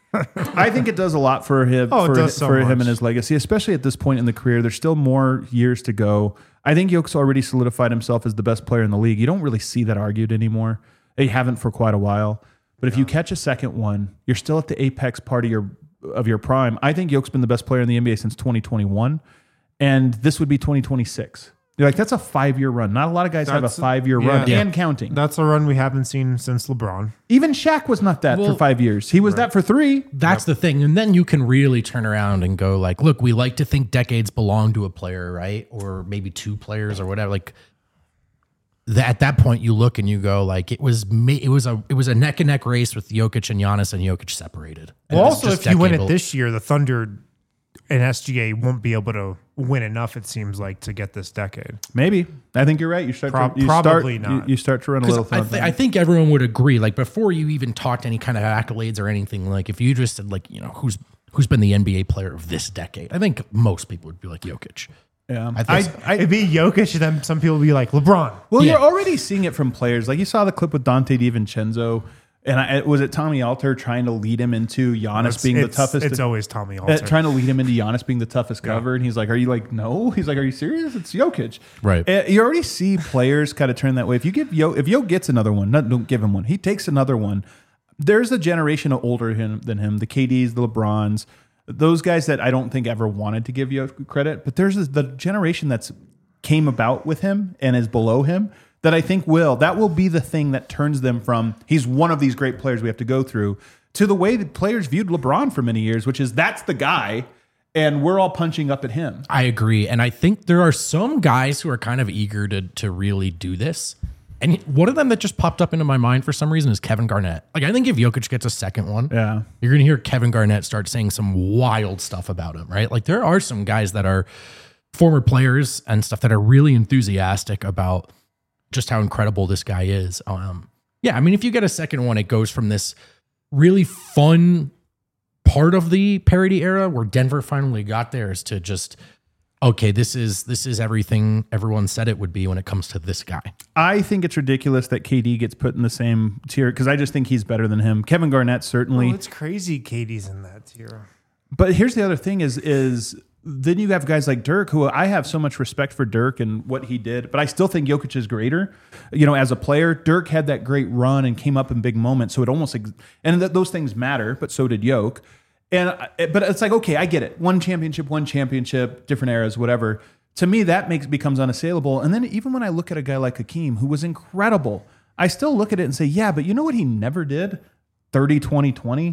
I think it does a lot for him, Oh, it for, does so for him much. and his legacy, especially at this point in the career. There's still more years to go. I think Jokic already solidified himself as the best player in the league. You don't really see that argued anymore. They haven't for quite a while. But if you catch a second one, you're still at the apex part of your of your prime. I think Jokic's been the best player in the N B A since twenty twenty-one, and this would be twenty twenty-six. You're like, that's a five-year run. Not a lot of guys have a That's a- five-year yeah. run Yeah. and counting. That's a run we haven't seen since LeBron. Even Shaq was not that Well, for five years. He was that for three. That's the thing. And then you can really turn around and go like, look, we like to think decades belong to a player, right? Or maybe two players or whatever. Like that, at that point you look and you go like, it was ma- it was a it was a neck and neck race with Jokic and Giannis, and Jokic separated. And Well, it was also, just if you win decade it bel- this year, the Thunder and S G A won't be able to win enough, it seems like, to get this decade. Maybe. I think you're right. You start Prob- to, you probably start, not. You, you start to run a 'Cause little I, thin. th- I think everyone would agree. Like before you even talked any kind of accolades or anything, like if you just said like, you know, who's who's been the N B A player of this decade, I think most people would be like Jokic. yeah. I I, think I, It'd be Jokic, and then some people would be like, LeBron. well, Yeah. you're already seeing it from players. Like you saw the clip with Dante DiVincenzo, and I, was it Tommy Alter trying to lead him into Giannis It's, being the it's- toughest? It's always Tommy uh, Alter. trying to lead him into Giannis being the toughest cover, and he's like, "Are you like no?" He's like, "Are you serious? It's Jokic." Right. Uh, you already see players kind of turn that way. If you give Yo, if Yo gets another one, not don't give him one. He takes another one. There's a generation of older him than him, the K Ds, the LeBrons, those guys that I don't think ever wanted to give Yo credit. But there's this, the generation that's came about with him and is below him that I think will that will be the thing that turns them from he's one of these great players we have to go through to the way that players viewed LeBron for many years, which is that's the guy, and we're all punching up at him. I agree. And I think there are some guys who are kind of eager to to really do this. And one of them that just popped up into my mind for some reason is Kevin Garnett. Like, I think if Jokic gets a second one, Yeah. you're going to hear Kevin Garnett start saying some wild stuff about him, right? Like, there are some guys that are former players and stuff that are really enthusiastic about just how incredible this guy is. Um, yeah, I mean, if you get a second one, it goes from this really fun part of the parody era where Denver finally got theirs to just, okay, this is this is everything everyone said it would be when it comes to this guy. I think it's ridiculous that K D gets put in the same tier because I just think he's better than him. Kevin Garnett certainly, Well, it's crazy Katie's in that tier. but here's the other thing: is is then you have guys like Dirk, who I have so much respect for Dirk and what he did, but I still think Jokic is greater. You know, as a player, Dirk had that great run and came up in big moments, so it almost ex- and th- those things matter, but so did Jokic. And I- but it's like, okay, I get it. One championship, one championship, different eras, whatever. To me, that makes becomes unassailable. And then even when I look at a guy like Hakeem, who was incredible, I still look at it and say, yeah, but you know what he never did? thirty, twenty, twenty.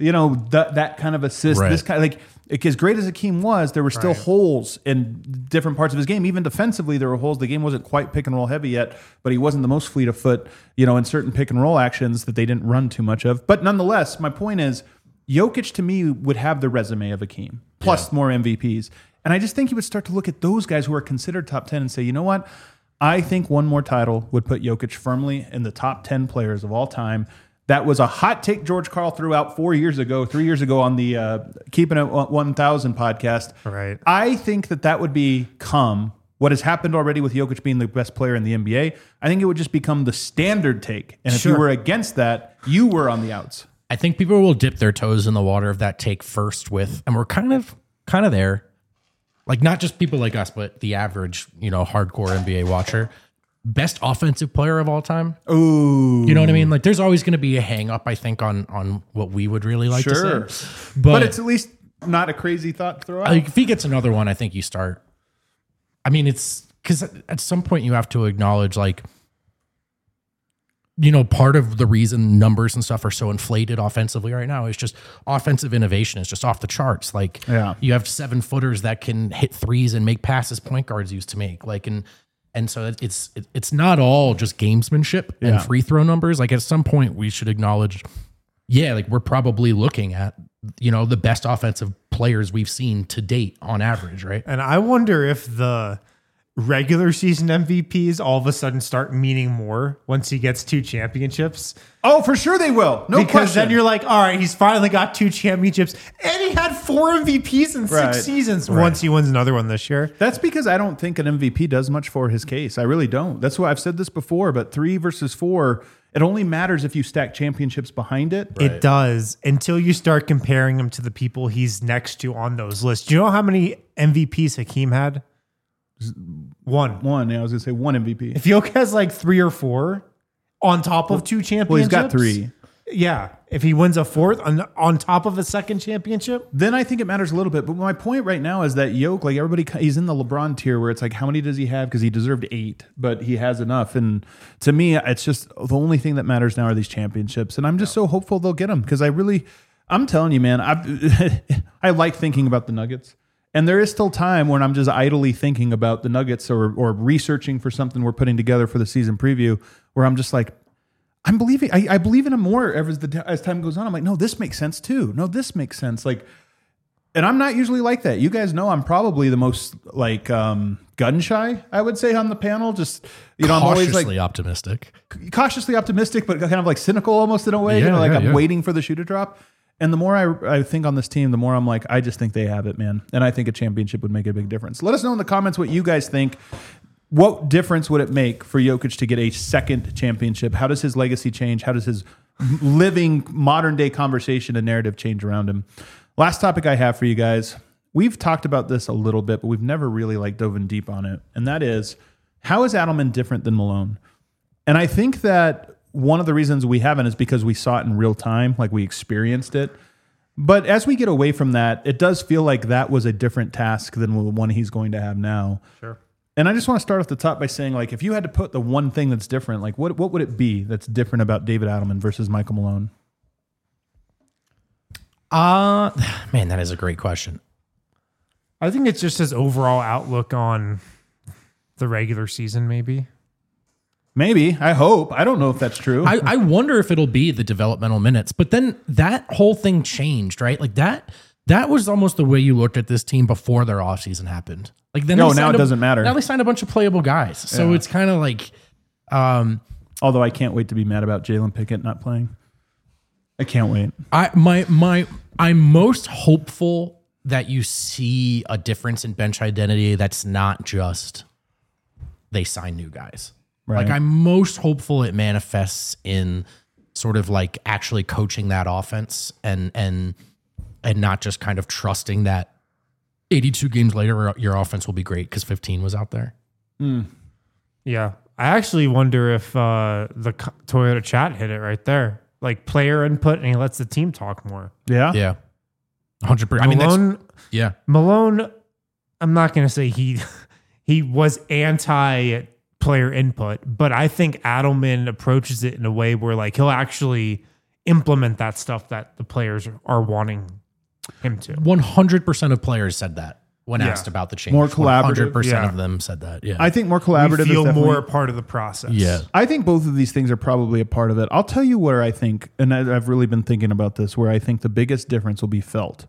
you know, that that kind of assist, Right. this kind of like, as great as Akeem was, there were still Right. holes in different parts of his game. Even defensively, there were holes. The game wasn't quite pick and roll heavy yet, but he wasn't the most fleet of foot, you know, in certain pick and roll actions that they didn't run too much of. But nonetheless, my point is, Jokic to me would have the resume of Akeem, plus Yeah. more M V Ps. And I just think he would start to look at those guys who are considered top ten and say, you know what? I think one more title would put Jokic firmly in the top ten players of all time. That was a hot take George Karl threw out four years ago, three years ago on the uh, Keeping It one thousand podcast. Right. I think that that would become what has happened already with Jokic being the best player in the N B A. I think it would just become the standard take. And if Sure. you were against that, you were on the outs. I think people will dip their toes in the water of that take first with, and we're kind of kind of there. Like not just people like us, but the average, you know, hardcore N B A watcher. Best offensive player of all time. Ooh. You know what I mean? Like there's always going to be a hang up, I think, on on what we would really like Sure. to say. But, But, it's at least not a crazy thought to throw out. like, if he gets another one, I think you start. I mean, it's because at some point you have to acknowledge, like, you know, part of the reason numbers and stuff are so inflated offensively right now is just offensive innovation is just off the charts. Like, Yeah. you have seven footers that can hit threes and make passes point guards used to make. Like, and and so it's it's not all just gamesmanship and Yeah. free throw numbers. Like, at some point we should acknowledge, yeah, like we're probably looking at, you know, the best offensive players we've seen to date on average, right? And I wonder if the regular season M V Ps all of a sudden start meaning more once he gets two championships. Oh, for sure they will. No because question. then you're like, all right, he's finally got two championships. And he had four M V Ps in Right. six seasons once he wins another one this year. That's because I don't think an M V P does much for his case. I really don't. That's why I've said this before, but three versus four, it only matters if you stack championships behind it. It does until you start comparing him to the people he's next to on those lists. Do you know how many M V Ps Hakeem had? One. One, yeah, I was going to say one M V P. If Jokic has like three or four on top of two championships. Well, he's got three. Yeah. If he wins a fourth on, on top of a second championship. Then I think it matters a little bit. But my point right now is that Yoke, like everybody, he's in the LeBron tier where it's like, how many does he have? Because he deserved eight, but he has enough. And to me, it's just the only thing that matters now are these championships. And I'm just so hopeful they'll get them because I really, I'm telling you, man, I I like thinking about the Nuggets. And there is still time when I'm just idly thinking about the Nuggets or or researching for something we're putting together for the season preview where I'm just like, I'm believing, I, I believe in him more as the as time goes on. I'm like, no, this makes sense too. No, this makes sense. Like, and I'm not usually like that. You guys know I'm probably the most like um, gun shy, I would say, on the panel. Just, you know, I'm always Cautiously like optimistic. cautiously optimistic, but kind of like cynical almost in a way. you Yeah, know, like yeah, I'm yeah. waiting for the shoe to drop. And the more I, I think on this team, the more I'm like, I just think they have it, man. And I think a championship would make a big difference. Let us know in the comments what you guys think. What difference would it make for Jokic to get a second championship? How does his legacy change? How does his living modern day conversation and narrative change around him? Last topic I have for you guys. We've talked about this a little bit, but we've never really like dove in deep on it. And that is, how is Adelman different than Malone? And I think that one of the reasons we haven't is because we saw it in real time, like we experienced it. But as we get away from that, it does feel like that was a different task than the one he's going to have now. Sure. And I just want to start off the top by saying, like, if you had to put the one thing that's different, like, what what would it be that's different about David Adelman versus Michael Malone? Uh, man, that is a great question. I think it's just his overall outlook on the regular season, maybe. Maybe. I hope. I don't know if that's true. I, I wonder if it'll be the developmental minutes, but then that whole thing changed, right? Like that, that was almost the way you looked at this team before their offseason happened. Like then, No, they now signed it a- doesn't matter. Now they signed a bunch of playable guys, so Yeah. it's kind of like, um, Although I can't wait to be mad about Jalen Pickett not playing. I can't wait. I my my I'm most hopeful that you see a difference in bench identity that's not just they sign new guys. Right. Like I'm most hopeful it manifests in sort of like actually coaching that offense and and and not just kind of trusting that eighty-two games later your offense will be great because fifteen was out there. Yeah. I actually wonder if uh, the co- Toyota chat hit it right there. Like player input, and he lets the team talk more. Yeah? Yeah. one hundred percent. I mean, that's, Malone, yeah. Malone, I'm not going to say he he was anti player input, but I think Adelman approaches it in a way where like he'll actually implement that stuff that the players are wanting him to. one hundred percent of players said that when Yeah. asked about the change. More collaborative. one hundred percent Yeah. of them said that. Yeah. I think more We collaborative feel is definitely, more a part of the process. yeah. I think both of these things are probably a part of it. I'll tell you where I think, and I- I've really been thinking about this, where I think the biggest difference will be felt.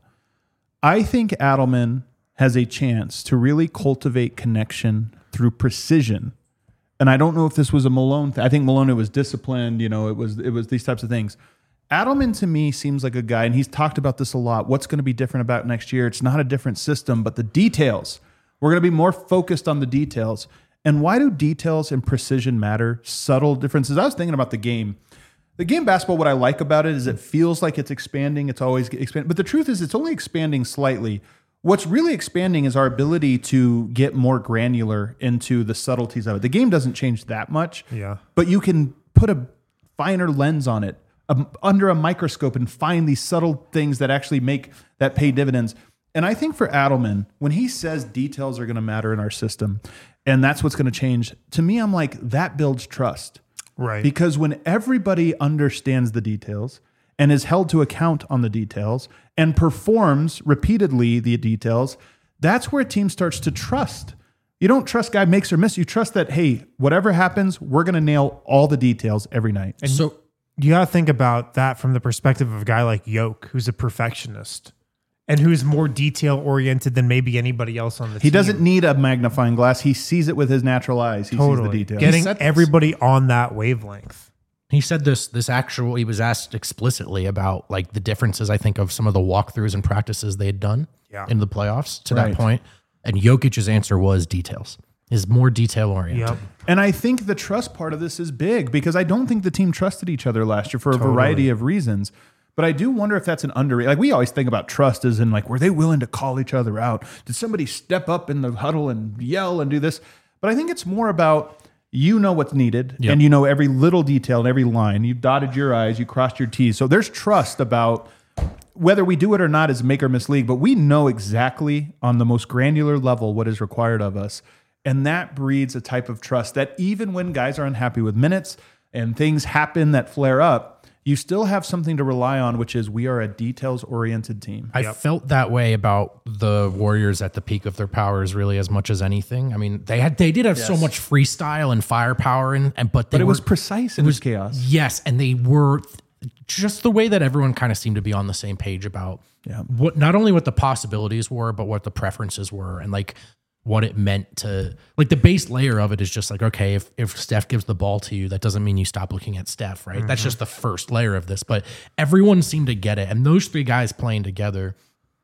I think Adelman has a chance to really cultivate connection through precision. And I don't know if this was a Malone thing. I think Malone it was disciplined, you know, it was it was these types of things. Adelman to me seems like a guy, and he's talked about this a lot. What's going to be different about next year? It's not a different system, but the details. We're going to be more focused on the details. And why do details and precision matter? Subtle differences. I was thinking about the game. The game basketball, what I like about it is it feels like it's expanding. It's always expanding. But the truth is it's only expanding slightly. What's really expanding is our ability to get more granular into the subtleties of it. The game doesn't change that much. Yeah. But you can put a finer lens on it um, under a microscope and find these subtle things that actually make that pay dividends. And I think for Adelman, when he says details are going to matter in our system, and that's what's going to change, to me, I'm like, that builds trust. Right. Because when everybody understands the details and is held to account on the details and performs repeatedly the details, that's where a team starts to trust. You don't trust guy makes or miss. You trust that, hey, whatever happens, we're going to nail all the details every night. And So you got to think about that from the perspective of a guy like Yoke, who's a perfectionist and who's more detail oriented than maybe anybody else on the He team. doesn't need a magnifying glass. He sees it with his natural eyes. He totally sees the details. getting said this. everybody on that wavelength. he said this this actual he was asked explicitly about like the differences, I think, of some of the walkthroughs and practices they had done Yeah. in the playoffs to Right. that point. And Jokic's answer was details. Is more detail oriented. Yep. And I think the trust part of this is big because I don't think the team trusted each other last year for a Totally. variety of reasons. But I do wonder if that's an underrated. Like we always think about trust as in like, were they willing to call each other out? Did somebody step up in the huddle and yell and do this? But I think it's more about you know what's needed Yep. and you know every little detail and every line. You dotted your I's, you crossed your T's. So there's trust about whether we do it or not is make or miss league, but we know exactly on the most granular level what is required of us. And that breeds a type of trust that even when guys are unhappy with minutes and things happen that flare up, you still have something to rely on, which is we are a details-oriented team. I felt that way about the Warriors at the peak of their powers, really, as much as anything. I mean, they had they did have so Yes. much freestyle and firepower, and, and but they But it were, was precise and it was chaos. Yes, and they were just the way that everyone kind of seemed to be on the same page about Yeah. what not only what the possibilities were, but what the preferences were, and like what it meant to like the base layer of it is just like, okay, if if Steph gives the ball to you, that doesn't mean you stop looking at Steph, right? That's just the first layer of this. But everyone seemed to get it. And those three guys playing together.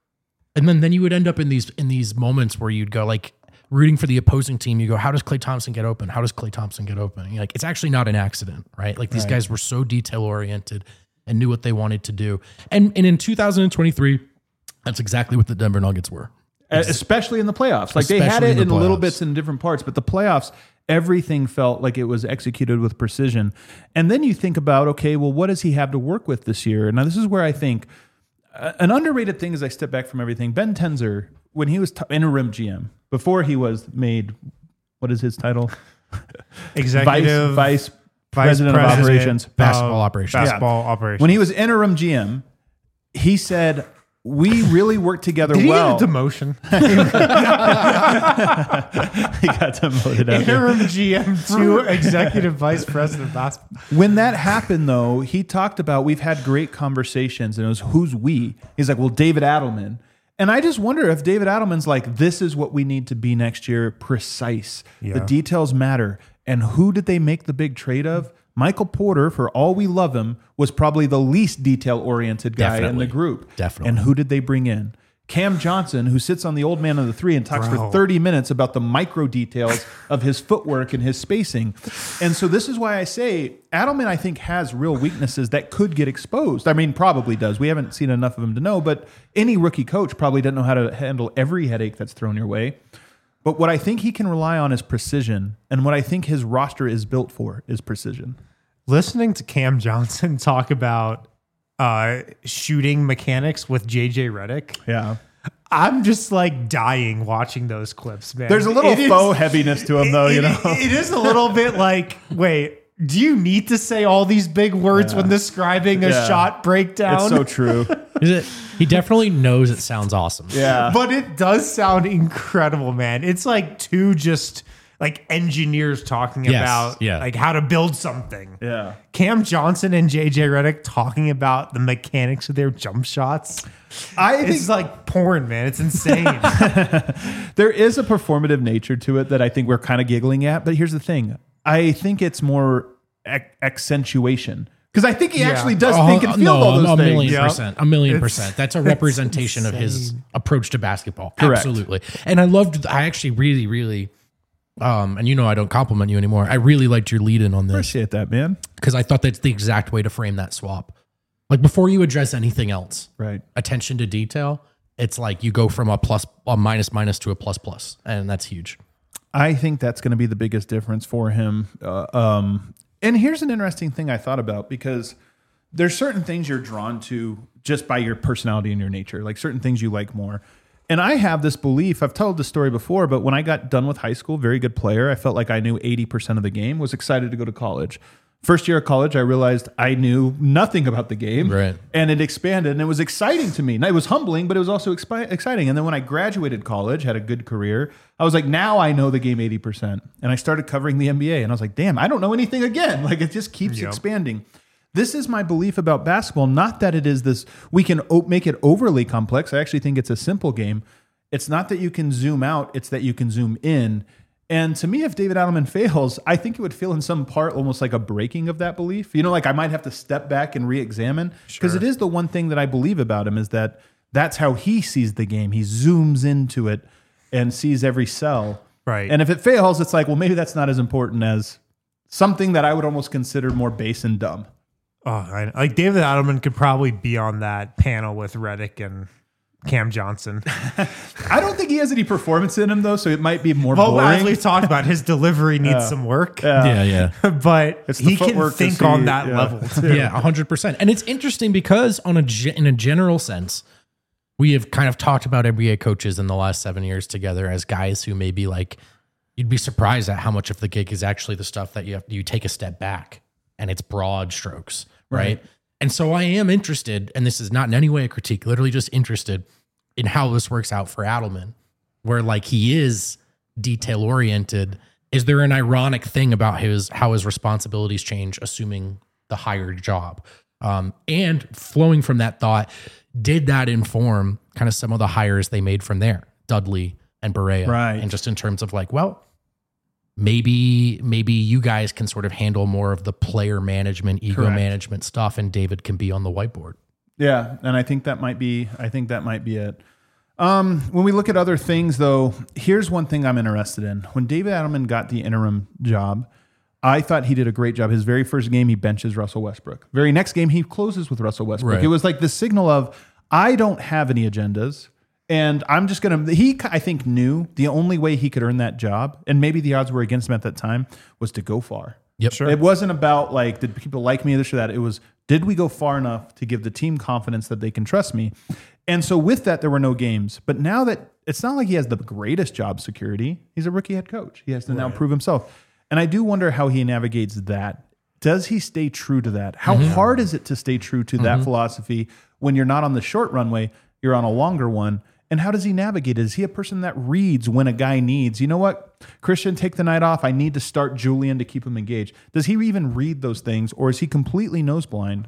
And then then you would end up in these in these moments where you'd go like rooting for the opposing team, you go, how does Klay Thompson get open? How does Klay Thompson get open? And you're like, it's actually not an accident, right? Like these Right. guys were so detail oriented and knew what they wanted to do. And and in two thousand twenty-three, that's exactly what the Denver Nuggets were. Especially in the playoffs. Like they had Especially it in the in little playoffs. bits in different parts, but the playoffs, everything felt like it was executed with precision. And then you think about, okay, well, what does he have to work with this year? Now, this is where I think uh, an underrated thing as I step back from everything, Ben Tenzer, when he was t- interim G M, before he was made, what is his title? Executive Vice, Vice Vice President, of President Operations. Basketball of operations. Basketball operations. When he was interim G M, he said, we really work together Did he well. get a demotion? he got demoted out there. Interim G M to executive vice president of basketball. When that happened, though, he talked about we've had great conversations, and it was who's we. He's like, well, David Adelman. And I just wonder if David Adelman's like, this is what we need to be next year, precise. The Yeah. details matter. And who did they make the big trade of? Michael Porter, for all we love him, was probably the least detail-oriented guy in Definitely. the group. Definitely. And who did they bring in? Cam Johnson, who sits on the old man of the three and talks Bro. for thirty minutes about the micro details of his footwork and his spacing. And so this is why I say Adelman, I think, has real weaknesses that could get exposed. I mean, probably does. We haven't seen enough of him to know, but any rookie coach probably doesn't know how to handle every headache that's thrown your way. But what I think he can rely on is precision. And what I think his roster is built for is precision. Listening to Cam Johnson talk about uh, shooting mechanics with J J Redick, Yeah. I'm just like dying watching those clips, man. There's a little It is- faux heaviness to him, though, you it- know? it is a little bit like, wait, Do you need to say all these big words Yeah. when describing a Yeah. shot breakdown? It's so true. Is it? He definitely knows it sounds awesome. Yeah. But it does sound incredible, man. It's like two just like engineers talking Yes, about yeah. like how to build something. Yeah. Cam Johnson and J J Redick talking about the mechanics of their jump shots. I think It's like porn, man. It's insane. there is a performative nature to it that I think we're kind of giggling at. But here's the thing. I think it's more ac- accentuation. Because I think he Yeah. actually does Oh, think and feel no, all those a things. million Yep. percent, a million It's- percent. That's a representation of his insane. approach to basketball. Correct. Absolutely. And I loved, I actually really, really, um, and you know, I don't compliment you anymore. I really liked your lead in on this Appreciate that, man. because I thought that's the exact way to frame that swap. Like before you address anything else, Right. attention to detail, it's like you go from a plus, a minus minus to a plus plus, and that's huge. I think that's going to be the biggest difference for him. Uh, um, and here's an interesting thing I thought about because there's certain things you're drawn to just by your personality and your nature, like certain things you like more. And I have this belief, I've told this story before, but when I got done with high school, very good player, I felt like I knew eighty percent of the game, was excited to go to college. First year of college, I realized I knew nothing about the game. Right. And it expanded and it was exciting to me. And it was humbling, but it was also expi- exciting. And then when I graduated college, had a good career, I was like, now I know the game eighty percent. And I started covering the N B A and I was like, damn, I don't know anything again. Like it just keeps Yep. expanding. This is my belief about basketball. Not that it is this, we can o- make it overly complex. I actually think it's a simple game. It's not that you can zoom out, it's that you can zoom in. And to me, if David Adelman fails, I think it would feel in some part almost like a breaking of that belief. You know, like I might have to step back and re-examine because it is the one thing that I believe about him is that that's how he sees the game. He zooms into it and sees every cell. Right. And if it fails, it's like, well, maybe that's not as important as something that I would almost consider more base and dumb. Oh, I, like David Adelman could probably be on that panel with Redick and Cam Johnson. I don't think he has any performance in him though, so it might be more Well, as boring. we've talked about, his delivery needs some work, Yeah, yeah. but It's the he can footwork to think see- on that yeah. level too. Yeah, one hundred percent. And it's interesting because on a ge- in a general sense, we have kind of talked about N B A coaches in the last seven years together as guys who maybe like you'd be surprised at how much of the gig is actually the stuff that you have you take a step back and it's broad strokes, right? Right. And so I am interested, and this is not in any way a critique, literally just interested in how this works out for Adelman, where like he is detail oriented. Is there an ironic thing about his how his responsibilities change, assuming the higher job? Um, and flowing from that thought, did that inform kind of some of the hires they made from there, Dudley and Barea, Right. And just in terms of like, well, maybe maybe you guys can sort of handle more of the player management, ego Correct. management stuff, and David can be on the whiteboard. Yeah, and I think that might be I think that might be it. Um, when we look at other things though, here's one thing I'm interested in. When David Adelman got the interim job, I thought he did a great job. His very first game, he benches Russell Westbrook. Very next game, he closes with Russell Westbrook. Right. It was like the signal of, I don't have any agendas. And I'm just going to, he, I think, knew the only way he could earn that job, and maybe the odds were against him at that time, was to go far. Yep. Sure. It wasn't about like, did people like me, this or that? It was, did we go far enough to give the team confidence that they can trust me? And so with that, there were no games. But now that it's not like he has the greatest job security, he's a rookie head coach. He has to now prove himself. And I do wonder how he navigates that. Does he stay true to that? How hard is it to stay true to that philosophy when you're not on the short runway, you're on a longer one? And how does he navigate it? Is he a person that reads when a guy needs, you know what, Christian, take the night off. I need to start Julian to keep him engaged. Does he even read those things, or is he completely nose blind?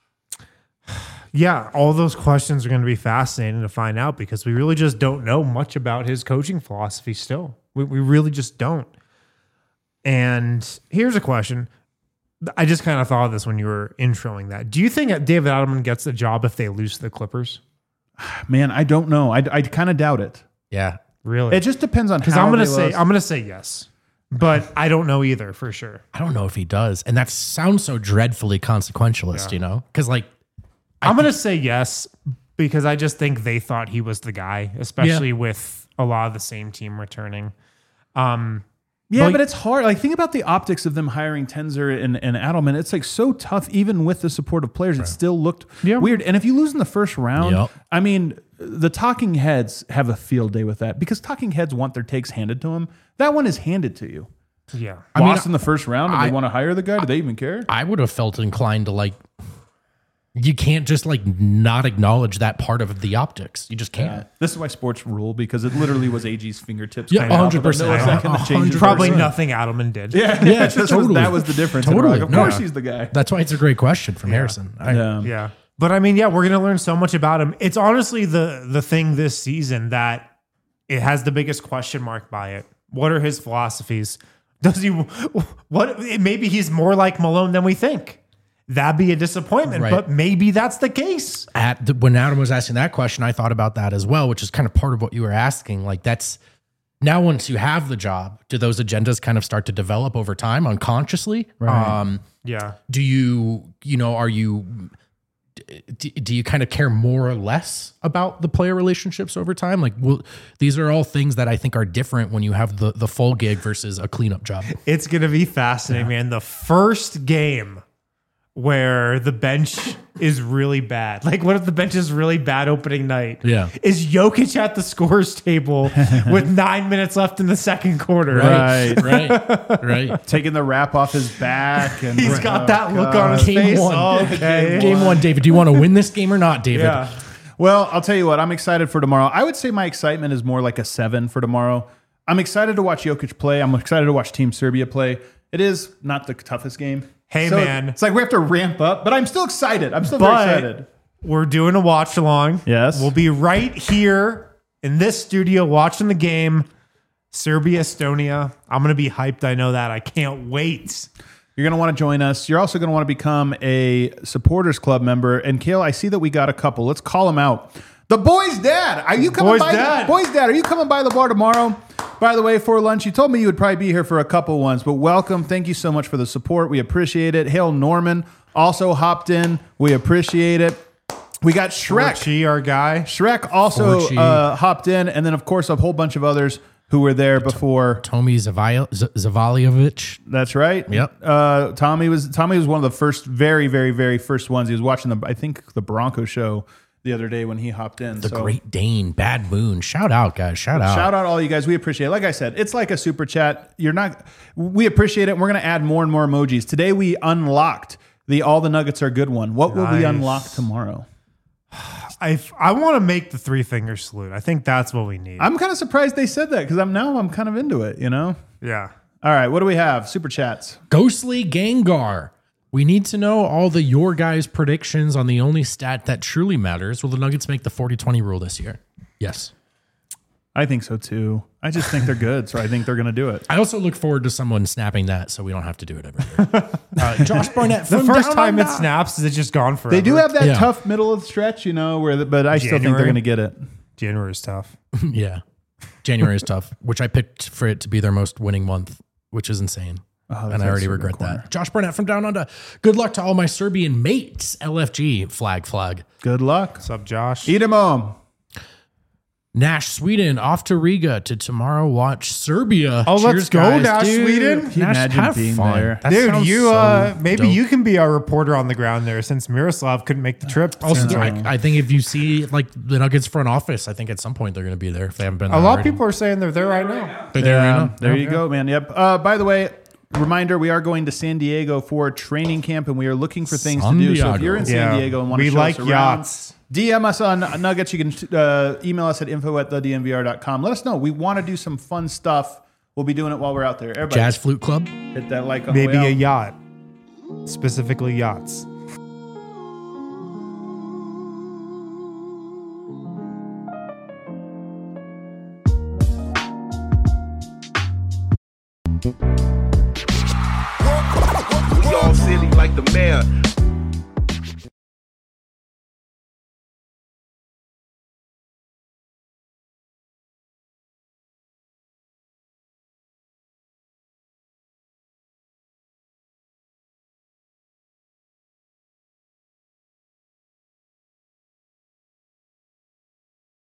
Yeah, all those questions are going to be fascinating to find out because we really just don't know much about his coaching philosophy still. We, we really just don't. And here's a question. I just kind of thought of this when you were introing that. Do you think that David Adelman gets the job if they lose to the Clippers? Man, I don't know. I, I kind of doubt it. Yeah. Really? It just depends on Because how I'm going to they say lost. I'm going to say yes, but I don't know either for sure. I don't know if he does. And that sounds so dreadfully consequentialist, you know? Because like, I'm going to say yes because I just think they thought he was the guy, especially with a lot of the same team returning. Um, Yeah, Well, but it's hard. Like, think about the optics of them hiring Tenzer and, and Adelman. It's like so tough, even with the support of players. It still looked Yeah. weird. And if you lose in the first round, Yep. I mean, the talking heads have a field day with that because talking heads want their takes handed to them. That one is handed to you. Yeah. I mean, Lost in the first round and I- they want to hire the guy? Do they even care? I would have felt inclined to like, you can't just like not acknowledge that part of the optics. You just can't. This is why sports rule, because it literally was A G's fingertips. Yeah, kind of one hundred percent. up at the millisecond that changed it. Probably Yeah. nothing Adelman did. Yeah, Yeah, that, was, totally. that was the difference. And we're Totally. like, of No. course he's the guy. That's why it's a great question from Harrison. I, Yeah. Yeah. But I mean, yeah, we're going to learn so much about him. It's honestly the the thing this season that it has the biggest question mark by it. What are his philosophies? Does he what maybe he's more like Malone than we think. That'd be a disappointment, Right. but maybe that's the case. At the, when Adam was asking that question, I thought about that as well, which is kind of part of what you were asking. Like that's now once you have the job, do those agendas kind of start to develop over time unconsciously? Um, Yeah. do you, you know, are you, do, do you kind of care more or less about the player relationships over time? Like, well, these are all things that I think are different when you have the, the full gig versus a cleanup job. It's going to be fascinating, man. The first game where the bench is really bad. Like, what if the bench is really bad opening night? Yeah. Is Jokic at the scores table with nine minutes left in the second quarter? Right. Right. Right. Taking the wrap off his back. And He's got that look on his Game face. one. Okay. Game one, David. Do you want to win this game or not, David? Yeah. Well, I'll tell you what, I'm excited for tomorrow. I would say my excitement is more like a seven for tomorrow. I'm excited to watch Jokic play. I'm excited to watch Team Serbia play. It is not the toughest game. Hey, So man. It's like we have to ramp up, but I'm still excited. I'm still But very excited. we're doing a watch along. Yes. We'll be right here in this studio watching the game. Serbia, Estonia. I'm going to be hyped. I know that. I can't wait. You're going to want to join us. You're also going to want to become a supporters club member. And Kale, I see that we got a couple. Let's call them out. The Boys Dad. Are you coming Boys by? Dad. Boys Dad, are you coming by the bar tomorrow? By the way, for lunch, you told me you would probably be here for a couple ones, but welcome. Thank you so much for the support. We appreciate it. Hail Norman also hopped in. We appreciate it. We got Shrek. Chi, our guy. Shrek also Forchi. uh, hopped in, and then of course a whole bunch of others who were there before. Tomi Zavia- Z- Zavaliovic. That's right. Yep. Uh, Tommy was Tommy was one of the first, very, very, very first ones. He was watching the, I think, the Bronco show the other day when he hopped in. The So, Great Dane, Bad Moon. Shout out, guys. Shout out. shout out all you guys. We appreciate it. Like I said, it's like a super chat. You're not. We appreciate it. And we're gonna add more and more emojis. Today we unlocked the all the nuggets are good one. What will we Nice. unlock tomorrow? I, I want to make the three finger salute. I think that's what we need. I'm kind of surprised they said that because I'm now I'm kind of into it. You know. yeah. All right. What do we have? Super chats. Ghostly Gengar. We need to know all the your guys' predictions on the only stat that truly matters. Will the Nuggets make the forty twenty rule this year? Yes. I think so too. I just think they're good, so I think they're going to do it. I also look forward to someone snapping that so we don't have to do it every year. uh, Josh Barnett. The from first Down time it Under. snaps, is it just gone forever? They do have that Yeah. tough middle of the stretch, you know, where the, but I still think they're January. going to get it. January is tough. Yeah. January is tough, which I picked for it to be their most winning month, which is insane. Oh, and I already regret that. Josh Barnett from Down Under. Good luck to all my Serbian mates. L F G flag flag. Good luck. What's up, Josh? Eat 'em home. Nash Sweden off to Riga to tomorrow watch Serbia. Oh, let's Cheers, go, guys. Nash Dude, Sweden. Can you Nash, imagine have being fun. there? That Dude, sounds you so uh, maybe dope. you can be our reporter on the ground there since Miroslav couldn't make the trip. Also, I, I think if you see like the Nuggets front office, I think at some point they're going to be there if they haven't been. a there lot of already. people are saying they're there right now. They're there right Um, now. there you go, man. Yep. Uh, by the way, reminder: we are going to San Diego for training camp, and we are looking for things San to do. So if Diego. you're in San Yeah. Diego and want We to show like us around, yachts. D M us on Nuggets. You can uh, email us at info at the D N V R dot com. Let us know. We want to do some fun stuff. We'll be doing it while we're out there. Everybody, Jazz Flute Club. hit that like on Maybe the a way out. yacht, specifically yachts. We all silly like the mayor.